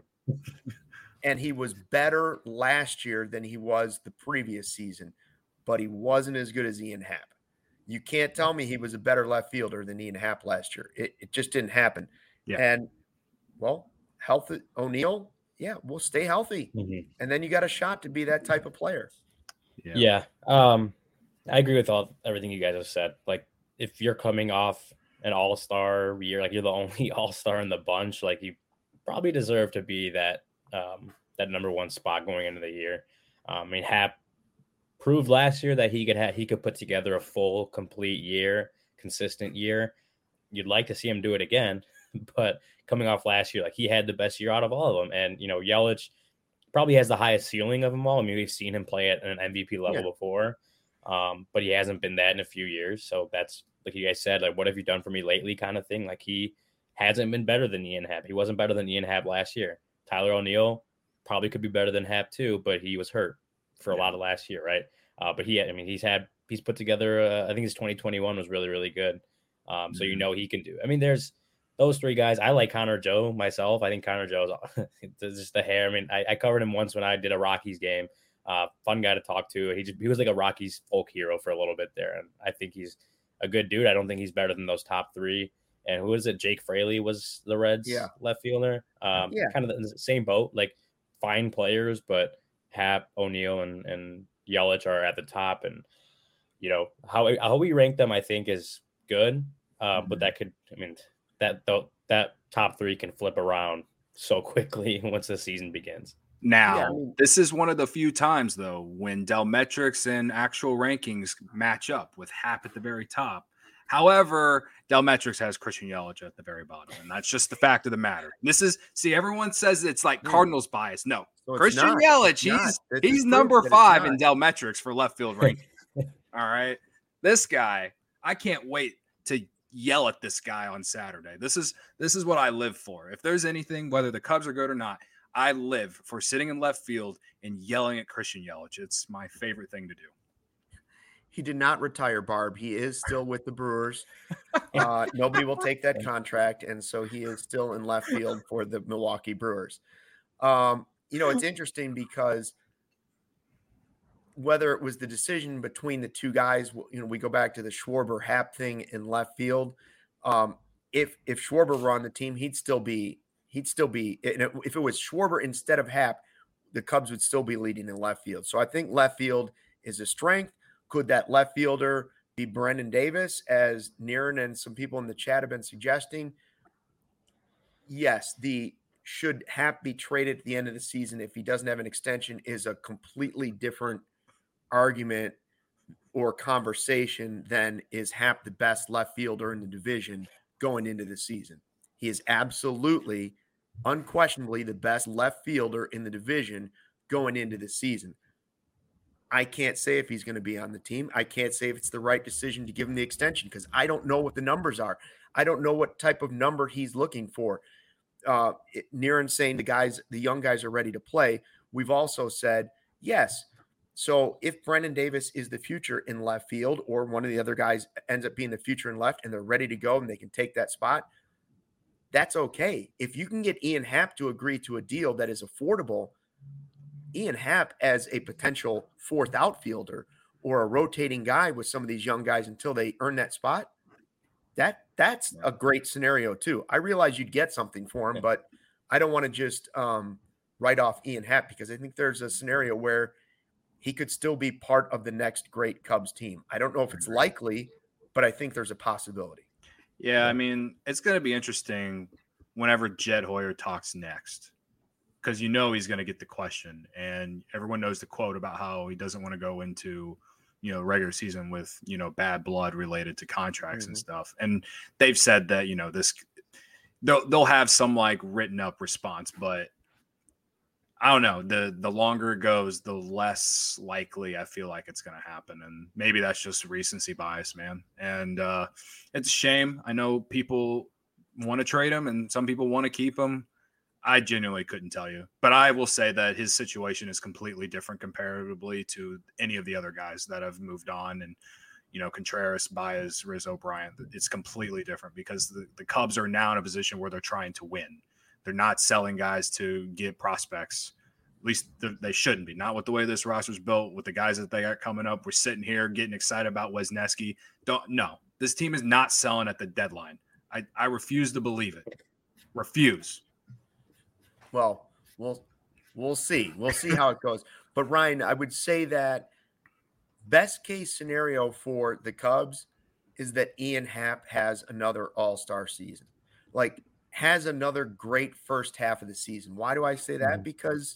and he was better last year than he was the previous season, but he wasn't as good as Ian Happ. You can't tell me he was a better left fielder than Ian Happ last year. It, it just didn't happen. Yeah. And, well, health O'Neill, yeah, we'll stay healthy. Mm-hmm. And then you got a shot to be that type of player. Yeah. yeah. Um, I agree with all everything you guys have said. Like, if you're coming off an all-star year, like you're the only all-star in the bunch, like you probably deserve to be that um, that number one spot going into the year. Um, I mean, Happ proved last year that he could have he could put together a full, complete year, consistent year. You'd like to see him do it again, but coming off last year, like he had the best year out of all of them. And you know, Yelich probably has the highest ceiling of them all. I mean, we've seen him play at an M V P level yeah. before, um, but he hasn't been that in a few years. So that's like you guys said, like, what have you done for me lately, kind of thing. Like he hasn't been better than Ian Happ. He wasn't better than Ian Happ last year. Tyler O'Neill probably could be better than Happ too, but he was hurt for a lot of last year, right? Uh, but he, I mean, he's had he's put together. Uh, I think his twenty twenty-one was really, really good. Um, mm-hmm. So you know he can do. I mean, there's those three guys. I like Connor Joe myself. I think Connor Joe is just the hair. I mean, I, I covered him once when I did a Rockies game. Uh, fun guy to talk to. He just he was like a Rockies folk hero for a little bit there, and I think he's a good dude. I don't think he's better than those top three. And who is it? Jake Fraley was the Reds yeah. left fielder. Um, yeah. Kind of the same boat, like fine players, but Happ, O'Neill, and, and Yelich are at the top. And, you know, how how we rank them, I think, is good. Uh, mm-hmm. But that could, I mean, that that top three can flip around so quickly once the season begins. Now, yeah, I mean, this is one of the few times, though, when Delmetrics and actual rankings match up with Happ at the very top. However, Delmetrics has Christian Yelich at the very bottom, and that's just the fact of the matter. This is, see, everyone says it's like Cardinals bias. No, so Christian not. Yelich, he's he's number five in Delmetrics for left field ranking. All right, this guy, I can't wait to yell at this guy on Saturday. This is this is what I live for. If there's anything, whether the Cubs are good or not, I live for sitting in left field and yelling at Christian Yelich. It's my favorite thing to do. He did not retire, Barb. He is still with the Brewers. Uh, nobody will take that contract, and so he is still in left field for the Milwaukee Brewers. Um, you know, it's interesting because whether it was the decision between the two guys, you know, we go back to the Schwarber-Happ thing in left field. Um, if if Schwarber were on the team, he'd still be he'd still be. If it was Schwarber instead of Happ, the Cubs would still be leading in left field. So I think left field is a strength. Could that left fielder be Brendan Davis, as Niren and some people in the chat have been suggesting? Yes, the should Happ be traded at the end of the season if he doesn't have an extension is a completely different argument or conversation than is Happ the best left fielder in the division going into the season. He is absolutely, unquestionably the best left fielder in the division going into the season. I can't say if he's going to be on the team. I can't say if it's the right decision to give him the extension because I don't know what the numbers are. I don't know what type of number he's looking for. Uh, Niren's saying the guys, the young guys are ready to play. We've also said, yes. So if Brendan Davis is the future in left field or one of the other guys ends up being the future in left and they're ready to go and they can take that spot, that's okay. If you can get Ian Happ to agree to a deal that is affordable, Ian Happ as a potential fourth outfielder or a rotating guy with some of these young guys until they earn that spot, that that's a great scenario too. I realize you'd get something for him, but I don't want to just um, write off Ian Happ because I think there's a scenario where he could still be part of the next great Cubs team. I don't know if it's likely, but I think there's a possibility. Yeah, I mean, it's going to be interesting whenever Jed Hoyer talks next. Because you know he's going to get the question, and everyone knows the quote about how he doesn't want to go into you know, regular season with, you know, bad blood related to contracts mm-hmm. and stuff. And they've said that, you know, this they'll they'll have some like written up response, but I don't know. The the longer it goes, the less likely I feel like it's going to happen. And maybe that's just recency bias, man. And uh, it's a shame. I know people want to trade him and some people want to keep him. I genuinely couldn't tell you. But I will say that his situation is completely different comparatively to any of the other guys that have moved on. And, you know, Contreras, Baez, Rizzo, Bryant, it's completely different because the, the Cubs are now in a position where they're trying to win. They're not selling guys to get prospects. At least they shouldn't be. Not with the way this roster's built, with the guys that they got coming up. We're sitting here getting excited about Wesneski. Don't no. This team is not selling at the deadline. I, I refuse to believe it. Refuse. Well, we'll we'll see. We'll see how it goes. But Ryan, I would say that best case scenario for the Cubs is that Ian Happ has another all-star season. Like has another great first half of the season. Why do I say that? Mm-hmm. Because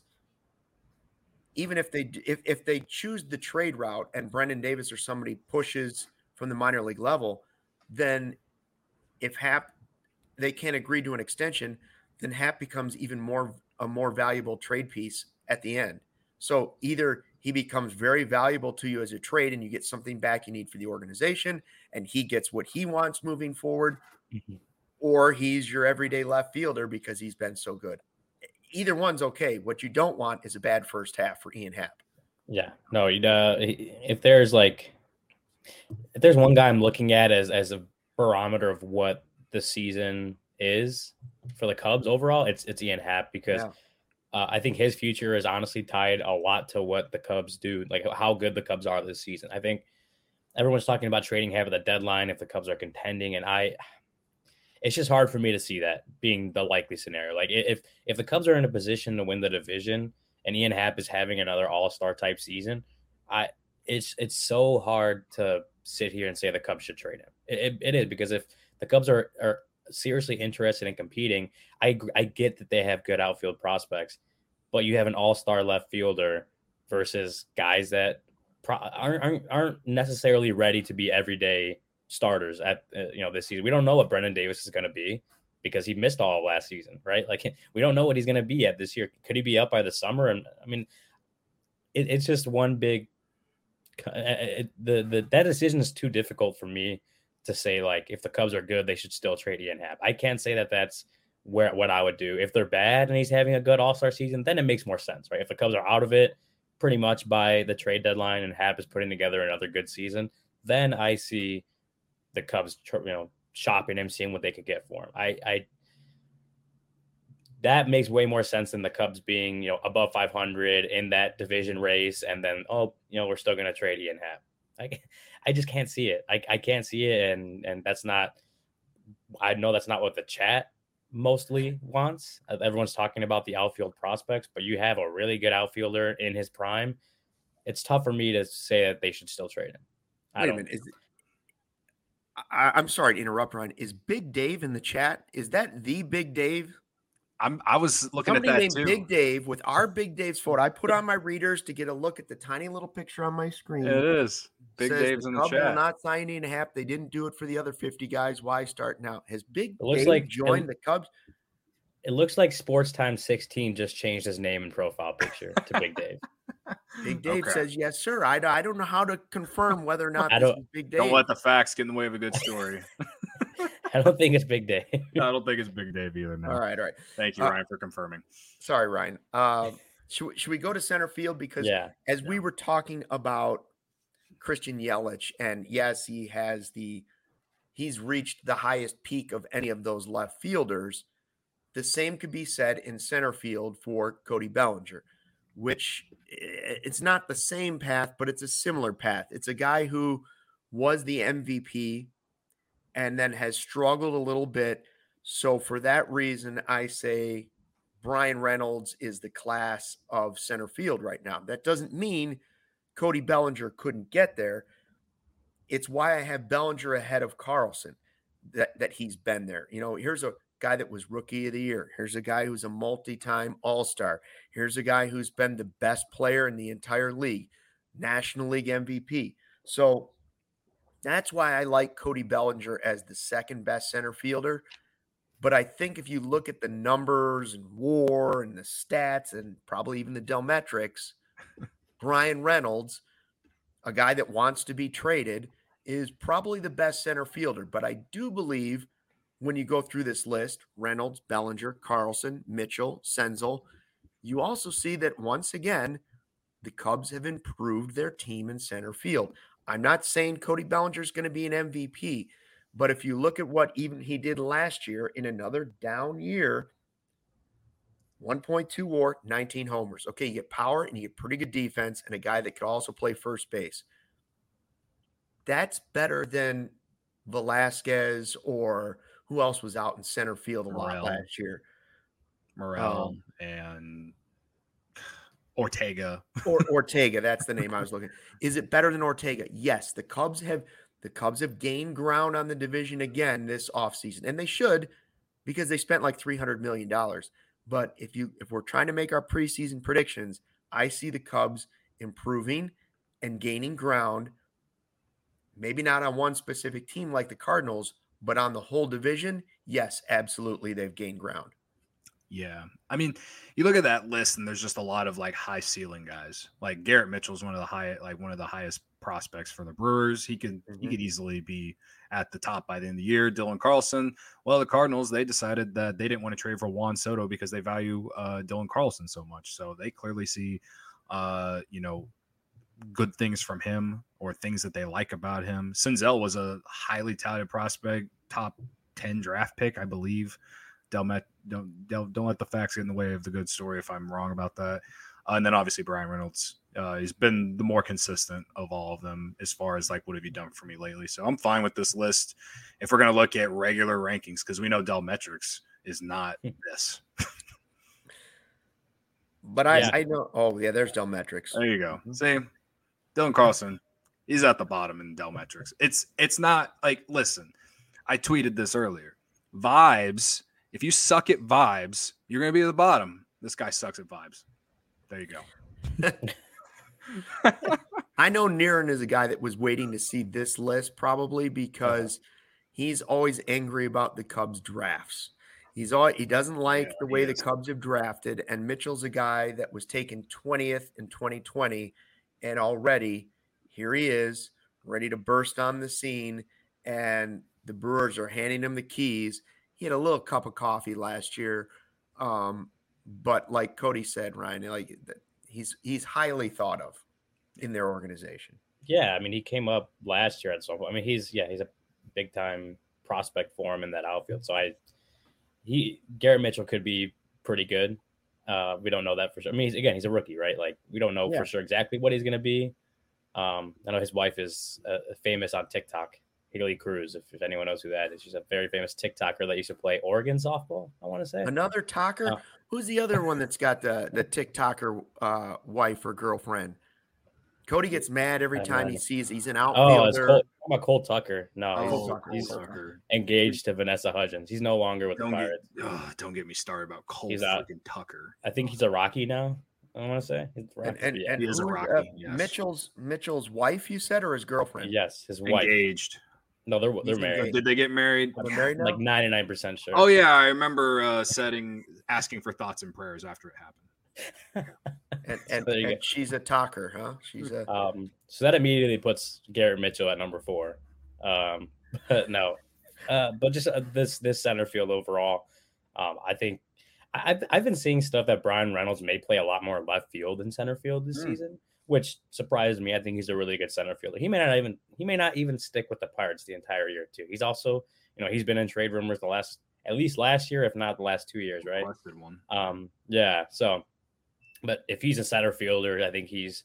even if they if, if they choose the trade route and Brendan Davis or somebody pushes from the minor league level, then if Happ they can't agree to an extension, then Happ becomes even more a more valuable trade piece at the end. So either he becomes very valuable to you as a trade and you get something back you need for the organization and he gets what he wants moving forward, mm-hmm. or he's your everyday left fielder because he's been so good. Either one's okay. What you don't want is a bad first half for Ian Happ. Yeah, no, uh, if there's like, if there's one guy I'm looking at as, as a barometer of what the season is for the Cubs overall, it's, it's Ian Happ because yeah. uh, I think his future is honestly tied a lot to what the Cubs do, like how good the Cubs are this season. I think everyone's talking about trading Happ at the deadline if the Cubs are contending, and I, it's just hard for me to see that being the likely scenario. Like if if the Cubs are in a position to win the division and Ian Happ is having another all-star type season, I it's it's so hard to sit here and say the Cubs should trade him. It, it, it is because if the Cubs are are seriously interested in competing, I I get that they have good outfield prospects, but you have an all-star left fielder versus guys that pro- aren't, aren't aren't necessarily ready to be everyday starters at uh, you know this season. We don't know what Brendan Davis is going to be because he missed all of last season, right? Like we don't know what he's going to be at this year. Could he be up by the summer? And I mean, it, it's just one big. It, the the that decision is too difficult for me to say. Like if the Cubs are good, they should still trade Ian Happ. I can't say that that's where what I would do. If they're bad and he's having a good All-Star season, then it makes more sense, right? If the Cubs are out of it pretty much by the trade deadline and Happ is putting together another good season, then I see the Cubs, you know, shopping him, seeing what they could get for him. I, I, that makes way more sense than the Cubs being, you know, above five hundred in that division race. And then, oh, you know, we're still going to trade Ian Happ. I, I just can't see it. I, I can't see it. And, and that's not, I know that's not what the chat mostly wants. Everyone's talking about the outfield prospects, but you have a really good outfielder in his prime. It's tough for me to say that they should still trade him. I Wait a don't, minute. Is it, I, I'm sorry to interrupt, Ryan. Is Big Dave in the chat? Is that the Big Dave? I'm. I was looking Somebody at that named too. Big Dave with our Big Dave's photo. I put on my readers to get a look at the tiny little picture on my screen. It is Big Says Dave's the in the Cubs chat. will not sign Ian Happ. They didn't do it for the other fifty guys. Why start now? Has Big It looks Dave like- joined it- the Cubs? It looks like Sports Time sixteen just changed his name and profile picture to Big Dave. Big Dave Okay. says, yes, sir. I, I don't know how to confirm whether or not I this don't- is Big Dave. Don't let the facts get in the way of a good story. I don't think it's Big Dave. I don't think it's Big Dave either. No. All right, all right. Thank you, Uh, Ryan, for confirming. Sorry, Ryan. Uh, should, we- should we go to center field? Because Yeah. as we were talking about Christian Yelich, and yes, he has the he's reached the highest peak of any of those left fielders. The same could be said in center field for Cody Bellinger, which it's not the same path, but it's a similar path. It's a guy who was the M V P and then has struggled a little bit. So for that reason, I say Brian Reynolds is the class of center field right now. That doesn't mean Cody Bellinger couldn't get there. It's why I have Bellinger ahead of Carlson, that, that he's been there. You know, here's a guy that was rookie of the year. Here's a guy who's a multi-time all-star. Here's a guy who's been the best player in the entire league, National League M V P. So that's why I like Cody Bellinger as the second best center fielder. But I think if you look at the numbers and WAR and the stats and probably even the Delmetrics, Brian Reynolds, a guy that wants to be traded, is probably the best center fielder. But I do believe when you go through this list, Reynolds, Bellinger, Carlson, Mitchell, Senzel, you also see that once again, the Cubs have improved their team in center field. I'm not saying Cody Bellinger is going to be an M V P, but if you look at what even he did last year in another down year, one point two WAR, nineteen homers. Okay, you get power and you get pretty good defense and a guy that could also play first base. That's better than Velasquez or who else was out in center field a Morel. lot last year. Morel um, and Ortega. or Ortega, that's the name I was looking. Is it better than Ortega? Yes, the Cubs have the Cubs have gained ground on the division again this offseason, and they should because they spent like three hundred million dollars. But if you if we're trying to make our preseason predictions, I see the Cubs improving and gaining ground, maybe not on one specific team like the Cardinals, but on the whole division. Yes, absolutely, they've gained ground. Yeah. I mean, you look at that list and there's just a lot of like high ceiling guys. Like Garrett Mitchell is one of the high, like one of the highest prospects for the Brewers. He could, mm-hmm. he could easily be at the top by the end of the year. Dylan Carlson. Well, the Cardinals, they decided that they didn't want to trade for Juan Soto because they value uh, Dylan Carlson so much. So they clearly see, uh, you know, good things from him or things that they like about him. Senzel was a highly touted prospect, top ten draft pick, I believe. Delmet, don't, don't don't let the facts get in the way of the good story if I'm wrong about that. Uh, and then obviously Brian Reynolds, uh, he's been the more consistent of all of them as far as like what have you done for me lately. So I'm fine with this list if we're going to look at regular rankings because we know Delmetrics is not this. But I, yeah. I know. Oh yeah, there's Delmetrics. There you go. See, Dylan Carlson, he's at the bottom in Delmetrics. It's it's not like listen. I tweeted this earlier. Vibes. If you suck at vibes, you're going to be at the bottom. This guy sucks at vibes. There you go. I know Niren is a guy that was waiting to see this list probably because he's always angry about the Cubs drafts. He's all, he doesn't like yeah, the way the Cubs have drafted, and Mitchell's a guy that was taken twentieth in twenty twenty, and already here he is ready to burst on the scene, and the Brewers are handing him the keys. He had a little cup of coffee last year, um, but like Cody said, Ryan, like he's he's highly thought of in their organization. Yeah, I mean, he came up last year at some point. I mean, he's yeah, he's a big time prospect for him in that outfield. So I, he Garrett Mitchell could be pretty good. Uh, we don't know that for sure. I mean, he's, again, he's a rookie, right? Like we don't know yeah. for sure exactly what he's going to be. Um, I know his wife is uh, famous on TikTok. Haley Cruz, if, if anyone knows who that is. She's a very famous TikToker that used to play Oregon softball, I want to say. Another talker? Uh, Who's the other one that's got the, the TikToker uh, wife or girlfriend? Cody gets mad every time he sees he's an outfielder. Oh, it's Cole, I'm a Cole Tucker. No, oh, he's, Cole Tucker. he's Cole Tucker. engaged to Vanessa Hudgens. He's no longer with don't the Pirates. Get, oh, don't get me started about Cole he's freaking Tucker. I think he's a Rocky now. I want to say he's and, and, yeah. and he is a Rocky. Uh, yes. Mitchell's Mitchell's wife, you said, or his girlfriend? Yes, his wife. Engaged. No, they're they're married. Engaged. Did they get married? They're married now? Like ninety-nine percent sure. Oh yeah, I remember uh, setting asking for thoughts and prayers after it happened. and and, and she's a talker, huh? She's a um. So that immediately puts Garrett Mitchell at number four. Um, but no, uh, but just uh, this this center field overall, um, I think I've I've been seeing stuff that Brian Reynolds may play a lot more left field than center field this mm. season, which surprised me. I think he's a really good center fielder. He may not even he may not even stick with the Pirates the entire year too. He's also, you know, he's been in trade rumors the last at least last year, if not the last two years, right? One. Um, yeah. So, but if he's a center fielder, I think he's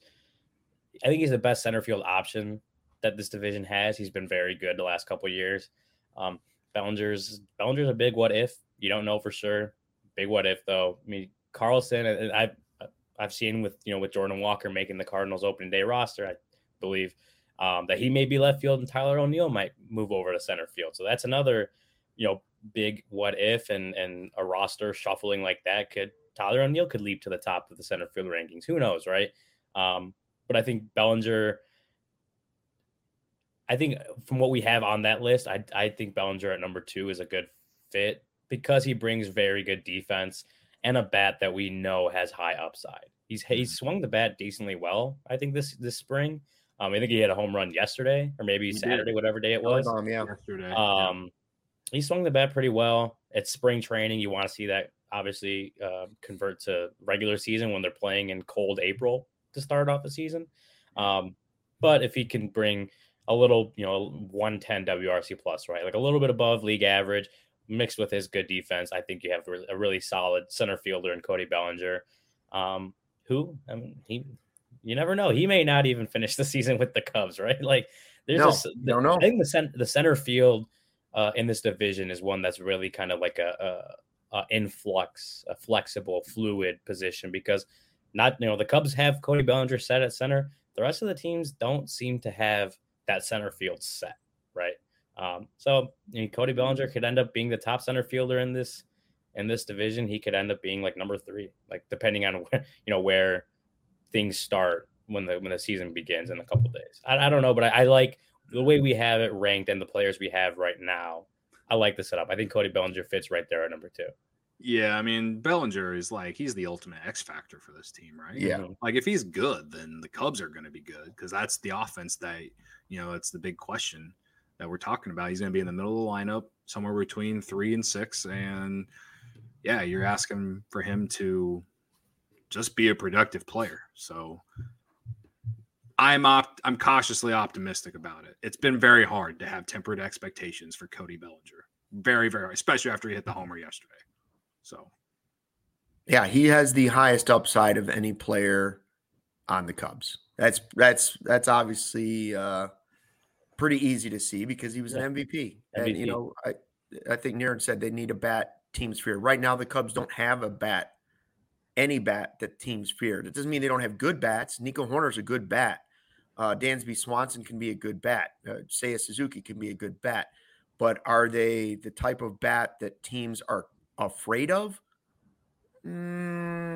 I think he's the best center field option that this division has. He's been very good the last couple of years. Um, Bellinger's Bellinger's a big what if. You don't know for sure. Big what if though. I mean, Carlson, and I've I've seen with you know with Jordan Walker making the Cardinals opening day roster, I believe um, that he may be left field and Tyler O'Neill might move over to center field. So that's another you know big what if, and and a roster shuffling like that could Tyler O'Neill could leap to the top of the center field rankings. Who knows, right? Um, but I think Bellinger, I think from what we have on that list, I I think Bellinger at number two is a good fit because he brings very good defense and a bat that we know has high upside. He's he's swung the bat decently well, I think, this this spring. Um, I think he had a home run yesterday or maybe He Saturday, did. whatever day it was. Um, yeah. Yesterday. Um, he swung the bat pretty well. It's spring training. You want to see that obviously uh, convert to regular season when they're playing in cold April to start off the season. Um, but if he can bring a little, you know, one ten W R C plus, right? Like a little bit above league average mixed with his good defense, I think you have a really solid center fielder in Cody Bellinger, um, who, I mean, he, you never know. He may not even finish the season with the Cubs, right? Like there's no, a, the, don't know. I think the, cent, the center field uh, in this division is one that's really kind of like a, a, a influx, a flexible, fluid position because not, you know, the Cubs have Cody Bellinger set at center. The rest of the teams don't seem to have that center field set, right? Um, so you know, Cody Bellinger could end up being the top center fielder in this in this division. He could end up being like number three, like depending on where, you know, where things start when the when the season begins in a couple of days. I, I don't know, but I, I like the way we have it ranked and the players we have right now. I like the setup. I think Cody Bellinger fits right there at number two. Yeah, I mean, Bellinger is like, he's the ultimate X factor for this team, right? Yeah. Like, if he's good, then the Cubs are going to be good because that's the offense that, you know, it's the big question that we're talking about. He's going to be in the middle of the lineup, somewhere between three and six. And, yeah, you're asking for him to just be a productive player. So I'm op- I'm cautiously optimistic about it. It's been very hard to have tempered expectations for Cody Bellinger. Very, very, especially after he hit the homer yesterday. So, yeah, he has the highest upside of any player on the Cubs. That's that's that's obviously uh, pretty easy to see because he was an Yeah. M V P. M V P. And you know, I I think Niren said they need a bat teams fear. Right now, the Cubs don't have a bat, any bat that teams fear. That doesn't mean they don't have good bats. Nico Horner's a good bat. Uh, Dansby Swanson can be a good bat. Uh, Seiya Suzuki can be a good bat. But are they the type of bat that teams are afraid of? Mm,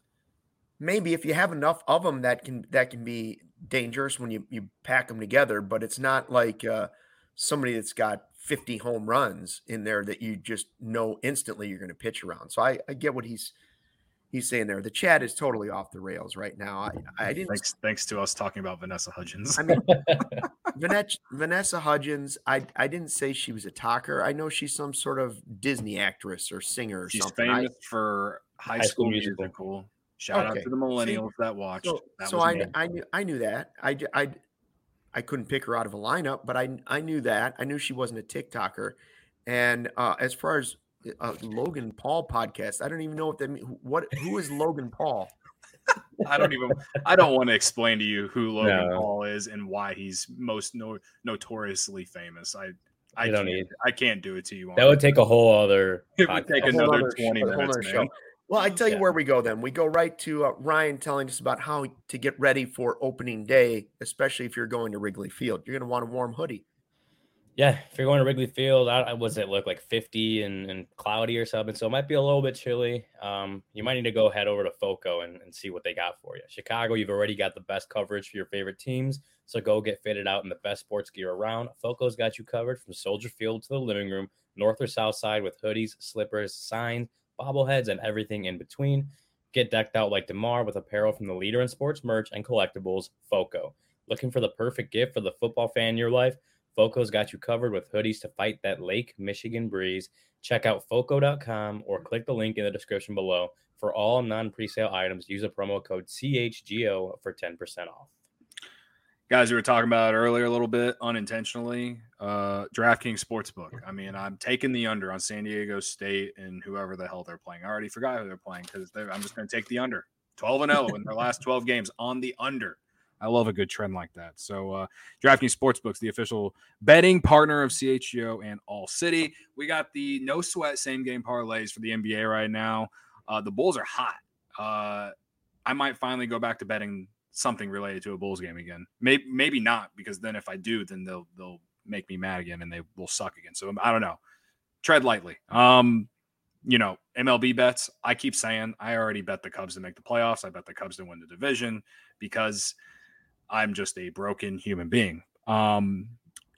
maybe if you have enough of them that can that can be dangerous when you, you pack them together, but it's not like uh, somebody that's got fifty home runs in there that you just know instantly you're going to pitch around. So I, I get what he's he's saying there. The chat is totally off the rails right now. I, I didn't thanks thanks to us talking about Vanessa Hudgens. I mean, Vanessa, Vanessa Hudgens, I, I didn't say she was a talker. I know she's some sort of Disney actress or singer or She's something. famous I, for High, High School, School Musical. Musical. Shout Okay. out to the millennials See, that watched. so that so was I, me. I knew I knew that. I, I, I couldn't pick her out of a lineup, but I I knew that. I knew she wasn't a TikToker. And uh, as far as uh, Logan Paul podcast, I don't even know what that means. What who is Logan Paul? I don't even. I don't want to explain to you who Logan No. Paul is and why he's most no, notoriously famous. I I You don't can't. need- I can't do it to you. on That would take a whole other. It would take A whole another other- twenty a whole minutes, other man. show. Well, I tell you Yeah. where we go then. We go right to uh, Ryan telling us about how to get ready for opening day, especially if you're going to Wrigley Field. You're going to want a warm hoodie. Yeah, if you're going to Wrigley Field, I, I was it look like fifty and, and cloudy or something, so it might be a little bit chilly. Um, you might need to go head over to FOCO and, and see what they got for you. Chicago, you've already got the best coverage for your favorite teams, so go get fitted out in the best sports gear around. FOCO's got you covered from Soldier Field to the living room, north or south side, with hoodies, slippers, signs, bobbleheads, and everything in between. Get decked out like DeMar with apparel from the leader in sports merch and collectibles, FOCO. Looking for the perfect gift for the football fan in your life? FOCO's got you covered with hoodies to fight that Lake Michigan breeze. Check out foco dot com or click the link in the description below. For all non-presale items, use a promo code C H G O for ten percent off. Guys, we were talking about earlier a little bit unintentionally. Uh, DraftKings Sportsbook. I mean, I'm taking the under on San Diego State and whoever the hell they're playing. I already forgot who they're playing because I'm just going to take the under. twelve and oh in their last twelve games on the under. I love a good trend like that. So uh, DraftKings Sportsbook's the official betting partner of C H G O and All City. We got the no sweat same game parlays for the N B A right now. Uh, the Bulls are hot. Uh, I might finally go back to betting something related to a Bulls game again. Maybe maybe not, because then if I do, then they'll they'll make me mad again and they will suck again. So I don't know. Tread lightly. Um, you know, M L B bets. I keep saying I already bet the Cubs to make the playoffs. I bet the Cubs to win the division because I'm just a broken human being. Um,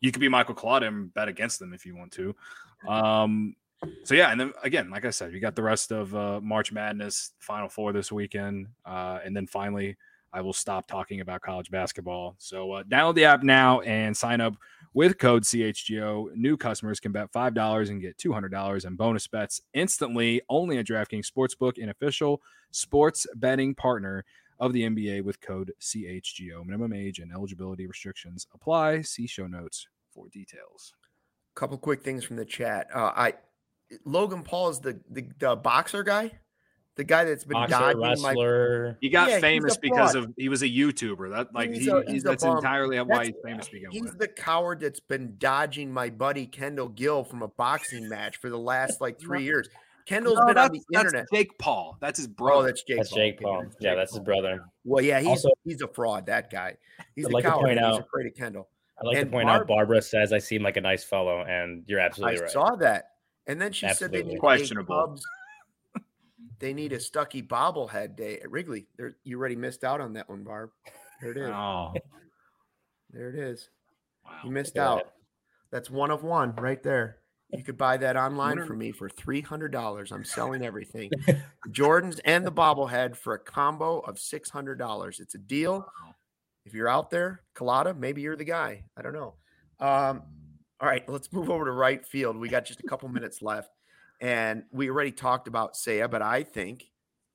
you could be Michael Collada and bet against them if you want to. Um, so yeah, and then again, like I said, you got the rest of uh, March Madness, Final Four this weekend, uh, and then finally, I will stop talking about college basketball. So uh, download the app now and sign up with code C H G O. New customers can bet five dollars and get two hundred dollars in bonus bets instantly. Only at DraftKings Sportsbook, an official sports betting partner of the N B A with code C H G O. Minimum age and eligibility restrictions apply. See show notes for details. Couple quick things from the chat. Uh, I Logan Paul is the, the the boxer guy, the guy that's been Boxer, dodging wrestler. my. He got Yeah, famous he's a because fraud. of he was a YouTuber. That like He's he, a- he- he's a that's bum. entirely why That's- he's famous to begin He's with. the coward that's been dodging my buddy Kendall Gill from a boxing match for the last like three years. Kendall's No, been on that's, the that's internet. Jake Paul. That's his brother. Oh, that's Jake. That's Paul. Jake Okay, Paul. that's Yeah, Jake that's his Paul. brother. Well, yeah, he's Also- he's a fraud. That guy. He's I'd a like to coward. point and He's out- afraid of Kendall. I'd like And to point Barb- out Barbara says I seem like a nice fellow, and you're absolutely I right. saw that, and then she said Absolutely. they need Questionable. A Cubs, they need a Stucky bobblehead day at Wrigley. There, you already missed out on that one, Barb. There it is. Oh, There it is. wow. You missed Yeah. out. That's one of one right there. You could buy that online Wonder- for me for three hundred dollars. I'm selling everything. Jordans and the bobblehead for a combo of six hundred dollars. It's a deal. Wow. If you're out there, Collada, maybe you're the guy. I don't know. Um, all right, let's move over to right field. We got just a couple minutes left. And we already talked about Seiya, but I think,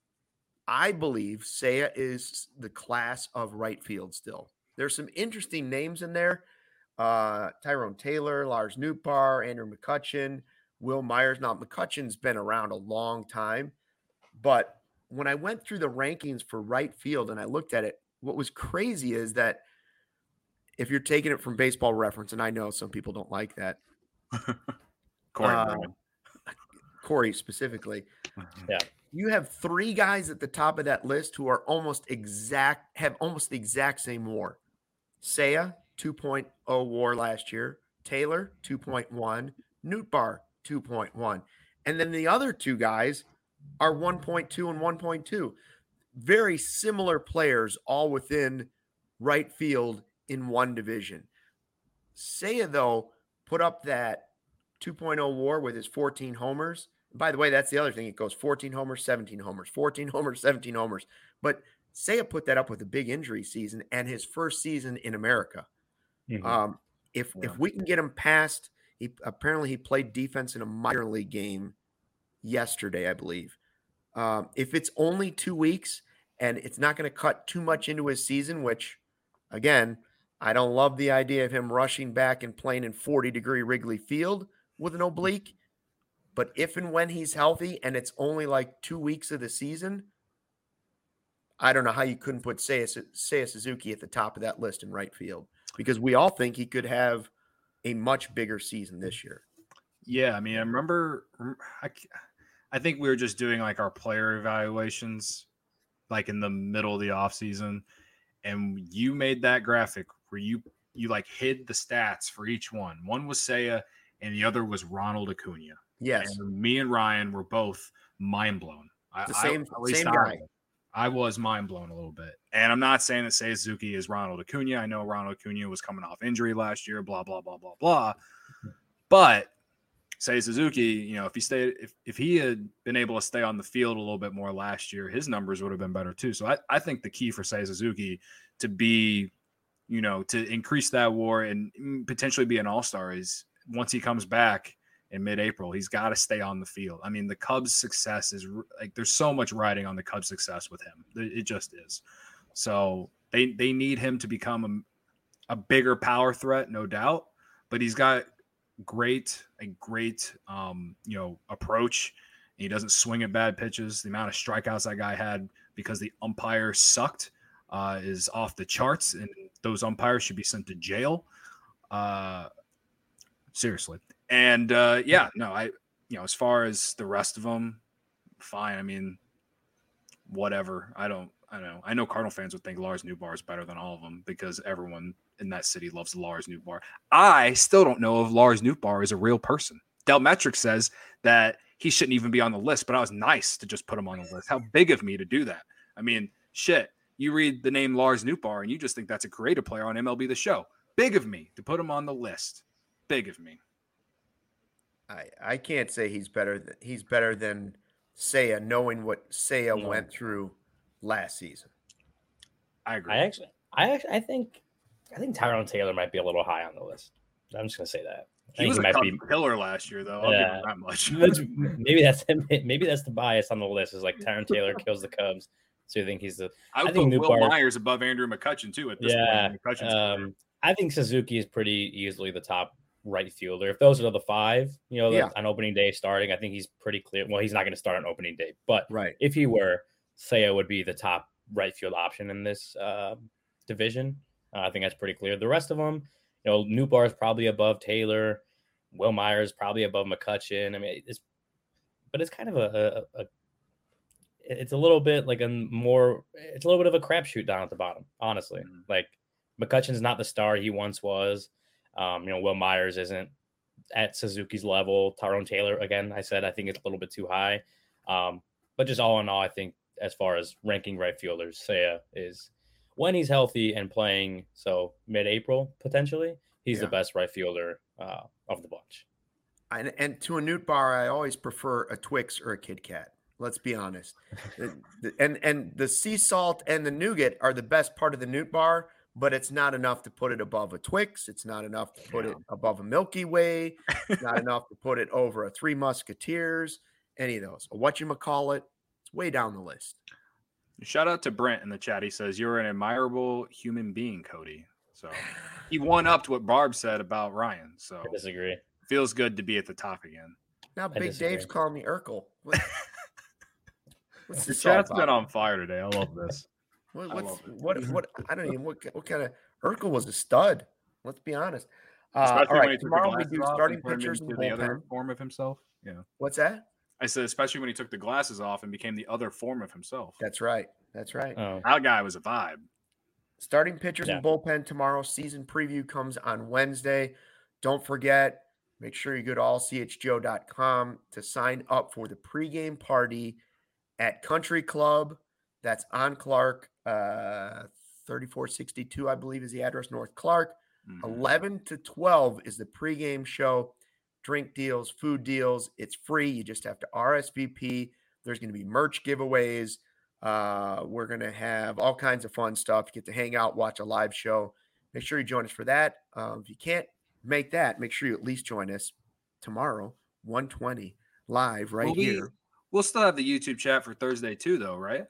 I believe Seiya is the class of right field still. There's some interesting names in there. Uh, Tyrone Taylor, Lars Nootbaar, Andrew McCutchen, Will Myers. Now, McCutchen's been around a long time, but when I went through the rankings for right field and I looked at it, what was crazy is that if you're taking it from Baseball Reference, and I know some people don't like that, Corey uh, Brown. Corey specifically, Yeah. you have three guys at the top of that list who are almost exact, have almost the exact same WAR. Seiya, two point oh WAR last year. Taylor, two point one. Nootbaar, two point one. And then the other two guys are one point two and one point two. Very similar players, all within right field in one division. Seiya, though, put up that two point oh WAR with his fourteen homers. By the way, that's the other thing. It goes fourteen homers, seventeen homers, fourteen homers, seventeen homers. But Seiya put that up with a big injury season and his first season in America. Mhm. Um, if Yeah. if we can get him past, he apparently he played defense in a minor league game yesterday, I believe. Um, if it's only two weeks and it's not going to cut too much into his season, which, again, I don't love the idea of him rushing back and playing in forty degree Wrigley Field with an oblique. But if and when he's healthy and it's only like two weeks of the season, I don't know how you couldn't put Seiya, Seiya Suzuki at the top of that list in right field, because we all think he could have a much bigger season this year. Yeah, I mean, I remember. I, I think we were just doing like our player evaluations, like in the middle of the offseason, and you made that graphic where you you like hid the stats for each one. One was Seiya, and the other was Ronald Acuna. Yes, And me and Ryan were both mind blown. I, the same I, at least same I, guy. I was mind blown a little bit. And I'm not saying that Seiya Suzuki is Ronald Acuna. I know Ronald Acuna was coming off injury last year, blah, blah, blah, blah, blah. But Seiya Suzuki, you know, if he stayed, if, if he had been able to stay on the field a little bit more last year, his numbers would have been better too. So I, I think the key for Seiya Suzuki to be, you know, to increase that WAR and potentially be an all-star is once he comes back in mid-April, he's got to stay on the field. I mean, the Cubs' success is like there's so much riding on the Cubs' success with him. It just is. So they they need him to become a, a bigger power threat, no doubt. But he's got great a great um, you know approach. He doesn't swing at bad pitches. The amount of strikeouts that guy had because the umpire sucked uh, is off the charts, and those umpires should be sent to jail. Uh, seriously. And uh, yeah, no, I, you know, as far as the rest of them, fine. I mean, whatever. I don't, I don't know. I know Cardinal fans would think Lars Nootbaar is better than all of them because everyone in that city loves Lars Nootbaar. I still don't know if Lars Nootbaar is a real person. Del Metric says that he shouldn't even be on the list, but I was nice to just put him on the list. How big of me to do that? I mean, shit. You read the name Lars Nootbaar and you just think that's a creative player on M L B The Show. Big of me to put him on the list. Big of me. I I can't say he's better. Than, he's better than Seiya, knowing what Seiya No. went through last season. I agree. I actually, I actually, I think, I think Tyrone Taylor might be a little high on the list. I'm just gonna say that. I He think was he a might Cubs be. killer last year, though. I'll Yeah. give him that much. That's- maybe that's maybe that's the bias on the list. Is like Tyrone Taylor kills the Cubs, so you think he's the. I would I think put Will Nootbaar- Myers above Andrew McCutchen too at this Yeah, point. in McCutchen's career. um, I think Suzuki is pretty easily the top right fielder. If those are the five, you know, Yeah. on opening day starting, I think he's pretty clear. Well, he's not going to start on opening day, but Right. if he were, Seiya would be the top right field option in this uh, division. Uh, I think that's pretty clear. The rest of them, you know, Nootbaar is probably above Taylor. Will Myers probably above McCutchen. I mean, it's, but it's kind of a, a, a it's a little bit like a more, it's a little bit of a crapshoot down at the bottom, honestly. Mhm. Like McCutchen's not the star he once was. Um, you know, Will Myers isn't at Suzuki's level. Tyrone Taylor, again, I said I think it's a little bit too high. Um, but just all in all, I think as far as ranking right fielders, Seiya is, when he's healthy and playing, so mid-April potentially, he's Yeah. the best right fielder uh, of the bunch. And, and to a Newt Bar, I always prefer a Twix or a Kit Kat. Let's be honest. The- the- and and the sea salt and the nougat are the best part of the Newt Bar, but it's not enough to put it above a Twix. It's not enough to put Yeah. it above a Milky Way. It's not enough to put it over a Three Musketeers. Any of those. A whatchamacallit. It's way down the list. Shout out to Brent in the chat. He says, "You're an admirable human being, Cody." So he one upped what Barb said about Ryan. So I disagree. feels good to be at the top again. Now I Big disagree. Dave's calling me Urkel. What, what's The this all chat's about? been on fire today. I love this. What, I what's, love it. what, what, I don't even, what, what kind of, Urkel was a stud. Let's be honest. Uh, Especially all when he right, took the tomorrow we glasses do off and starting turned pitchers and into the other bullpen. form of himself. Yeah, What's that? I said, especially when he took the glasses off and became the other form of himself. That's right. That's right. Oh, That guy was a vibe. Starting pitchers Yeah. and bullpen tomorrow. Season preview comes on Wednesday. Don't forget, make sure you go to all c h g o dot com to sign up for the pregame party at Country Club. That's on Clark, uh, thirty-four sixty-two, I believe, is the address, North Clark. Mhm. eleven to twelve is the pregame show. Drink deals, food deals. It's free. You just have to R S V P. There's going to be merch giveaways. Uh, we're going to have all kinds of fun stuff. You get to hang out, watch a live show. Make sure you join us for that. Um, if you can't make that, make sure you at least join us tomorrow, one twenty, live right Will we- here. We'll still have the YouTube chat for Thursday too, though, right?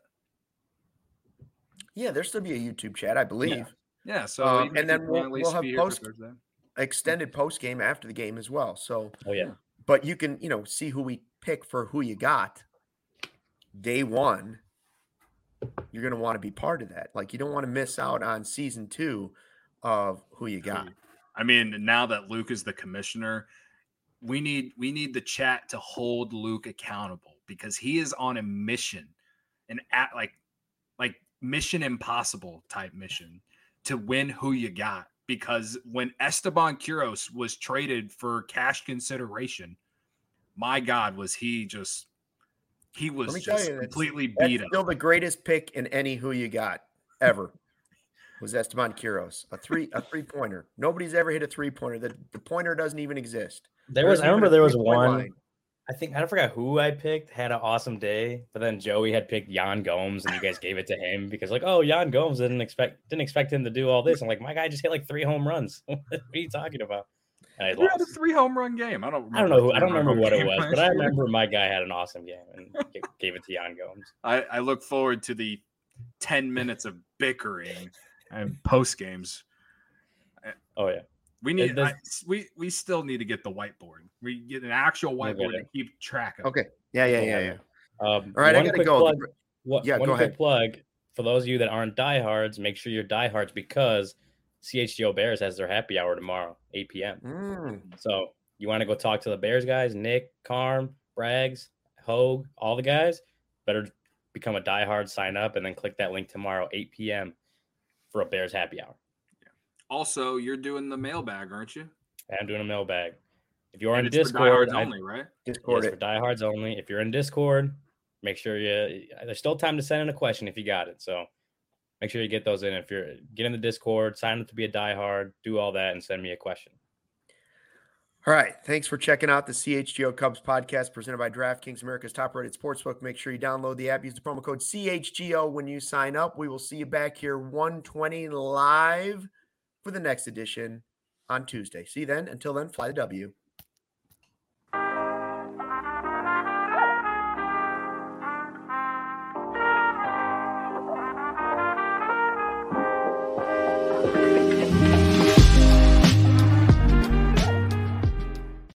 Yeah, there'll still be a YouTube chat, I believe. Yeah. So Um, even and if then you we'll- can at least we'll have be here for post- Thursday. Extended post game after the game as well. So, oh yeah. but you can, you know, see who we pick for who you got day one. You're going to want to be part of that. Like, you don't want to miss out on season two of who you got. I mean, now that Luke is the commissioner, we need we need the chat to hold Luke accountable because he is on a mission, an at like like Mission Impossible type mission to win who you got. Because when Esteban Quiroz was traded for cash consideration, my God, was he just he was Let me tell just you, that's- completely That's beat up. still the greatest pick in any who you got ever was Esteban Quiroz. A three a three pointer. Nobody's ever hit a three pointer. The, the pointer doesn't even exist. There was, There's I even remember a there was three-point one. line. I think I forgot who I picked had an awesome day, but then Joey had picked Jan Gomes, and you guys gave it to him because like, oh, Jan Gomes didn't expect didn't expect him to do all this. I'm like, my guy just hit like three home runs. What are you talking about? And I We had a lost. three home run game. I don't. I don't know who. a I don't three-run remember what it game was, last but I year. remember my guy had an awesome game and g- gave it to Jan Gomes. I, I look forward to the ten minutes of bickering and post games. Oh yeah, We need. does- I, we we still need to get the whiteboard. We get an actual We'll get whiteboard to it. keep track of. Okay. Yeah, yeah, yeah, yeah. Um, All right, I one gotta quick go. Plug, what, Yeah, one go quick ahead. plug for those of you that aren't diehards. Make sure you're diehards because C H G O Bears has their happy hour tomorrow, eight p.m. Mm, So you want to go talk to the Bears guys, Nick, Carm, Braggs, Hogue, all the guys, better become a diehard, sign up, and then click that link tomorrow, eight p.m. for a Bears happy hour. Also, you're doing the mailbag, aren't you? I'm doing a mailbag. If you're And in it's for Discord, diehards I- only, right? Discord yes, for it. diehards only. If you're in Discord, make sure you. There's still time to send in a question if you got it. So make sure you get those in. If you're get in the Discord, sign up to be a diehard, do all that, and send me a question. All right. Thanks for checking out the C H G O Cubs podcast presented by DraftKings, America's top-rated sportsbook. Make sure you download the app. Use the promo code C H G O when you sign up. We will see you back here one twenty live for the next edition on Tuesday. See you then. Until then, fly the W.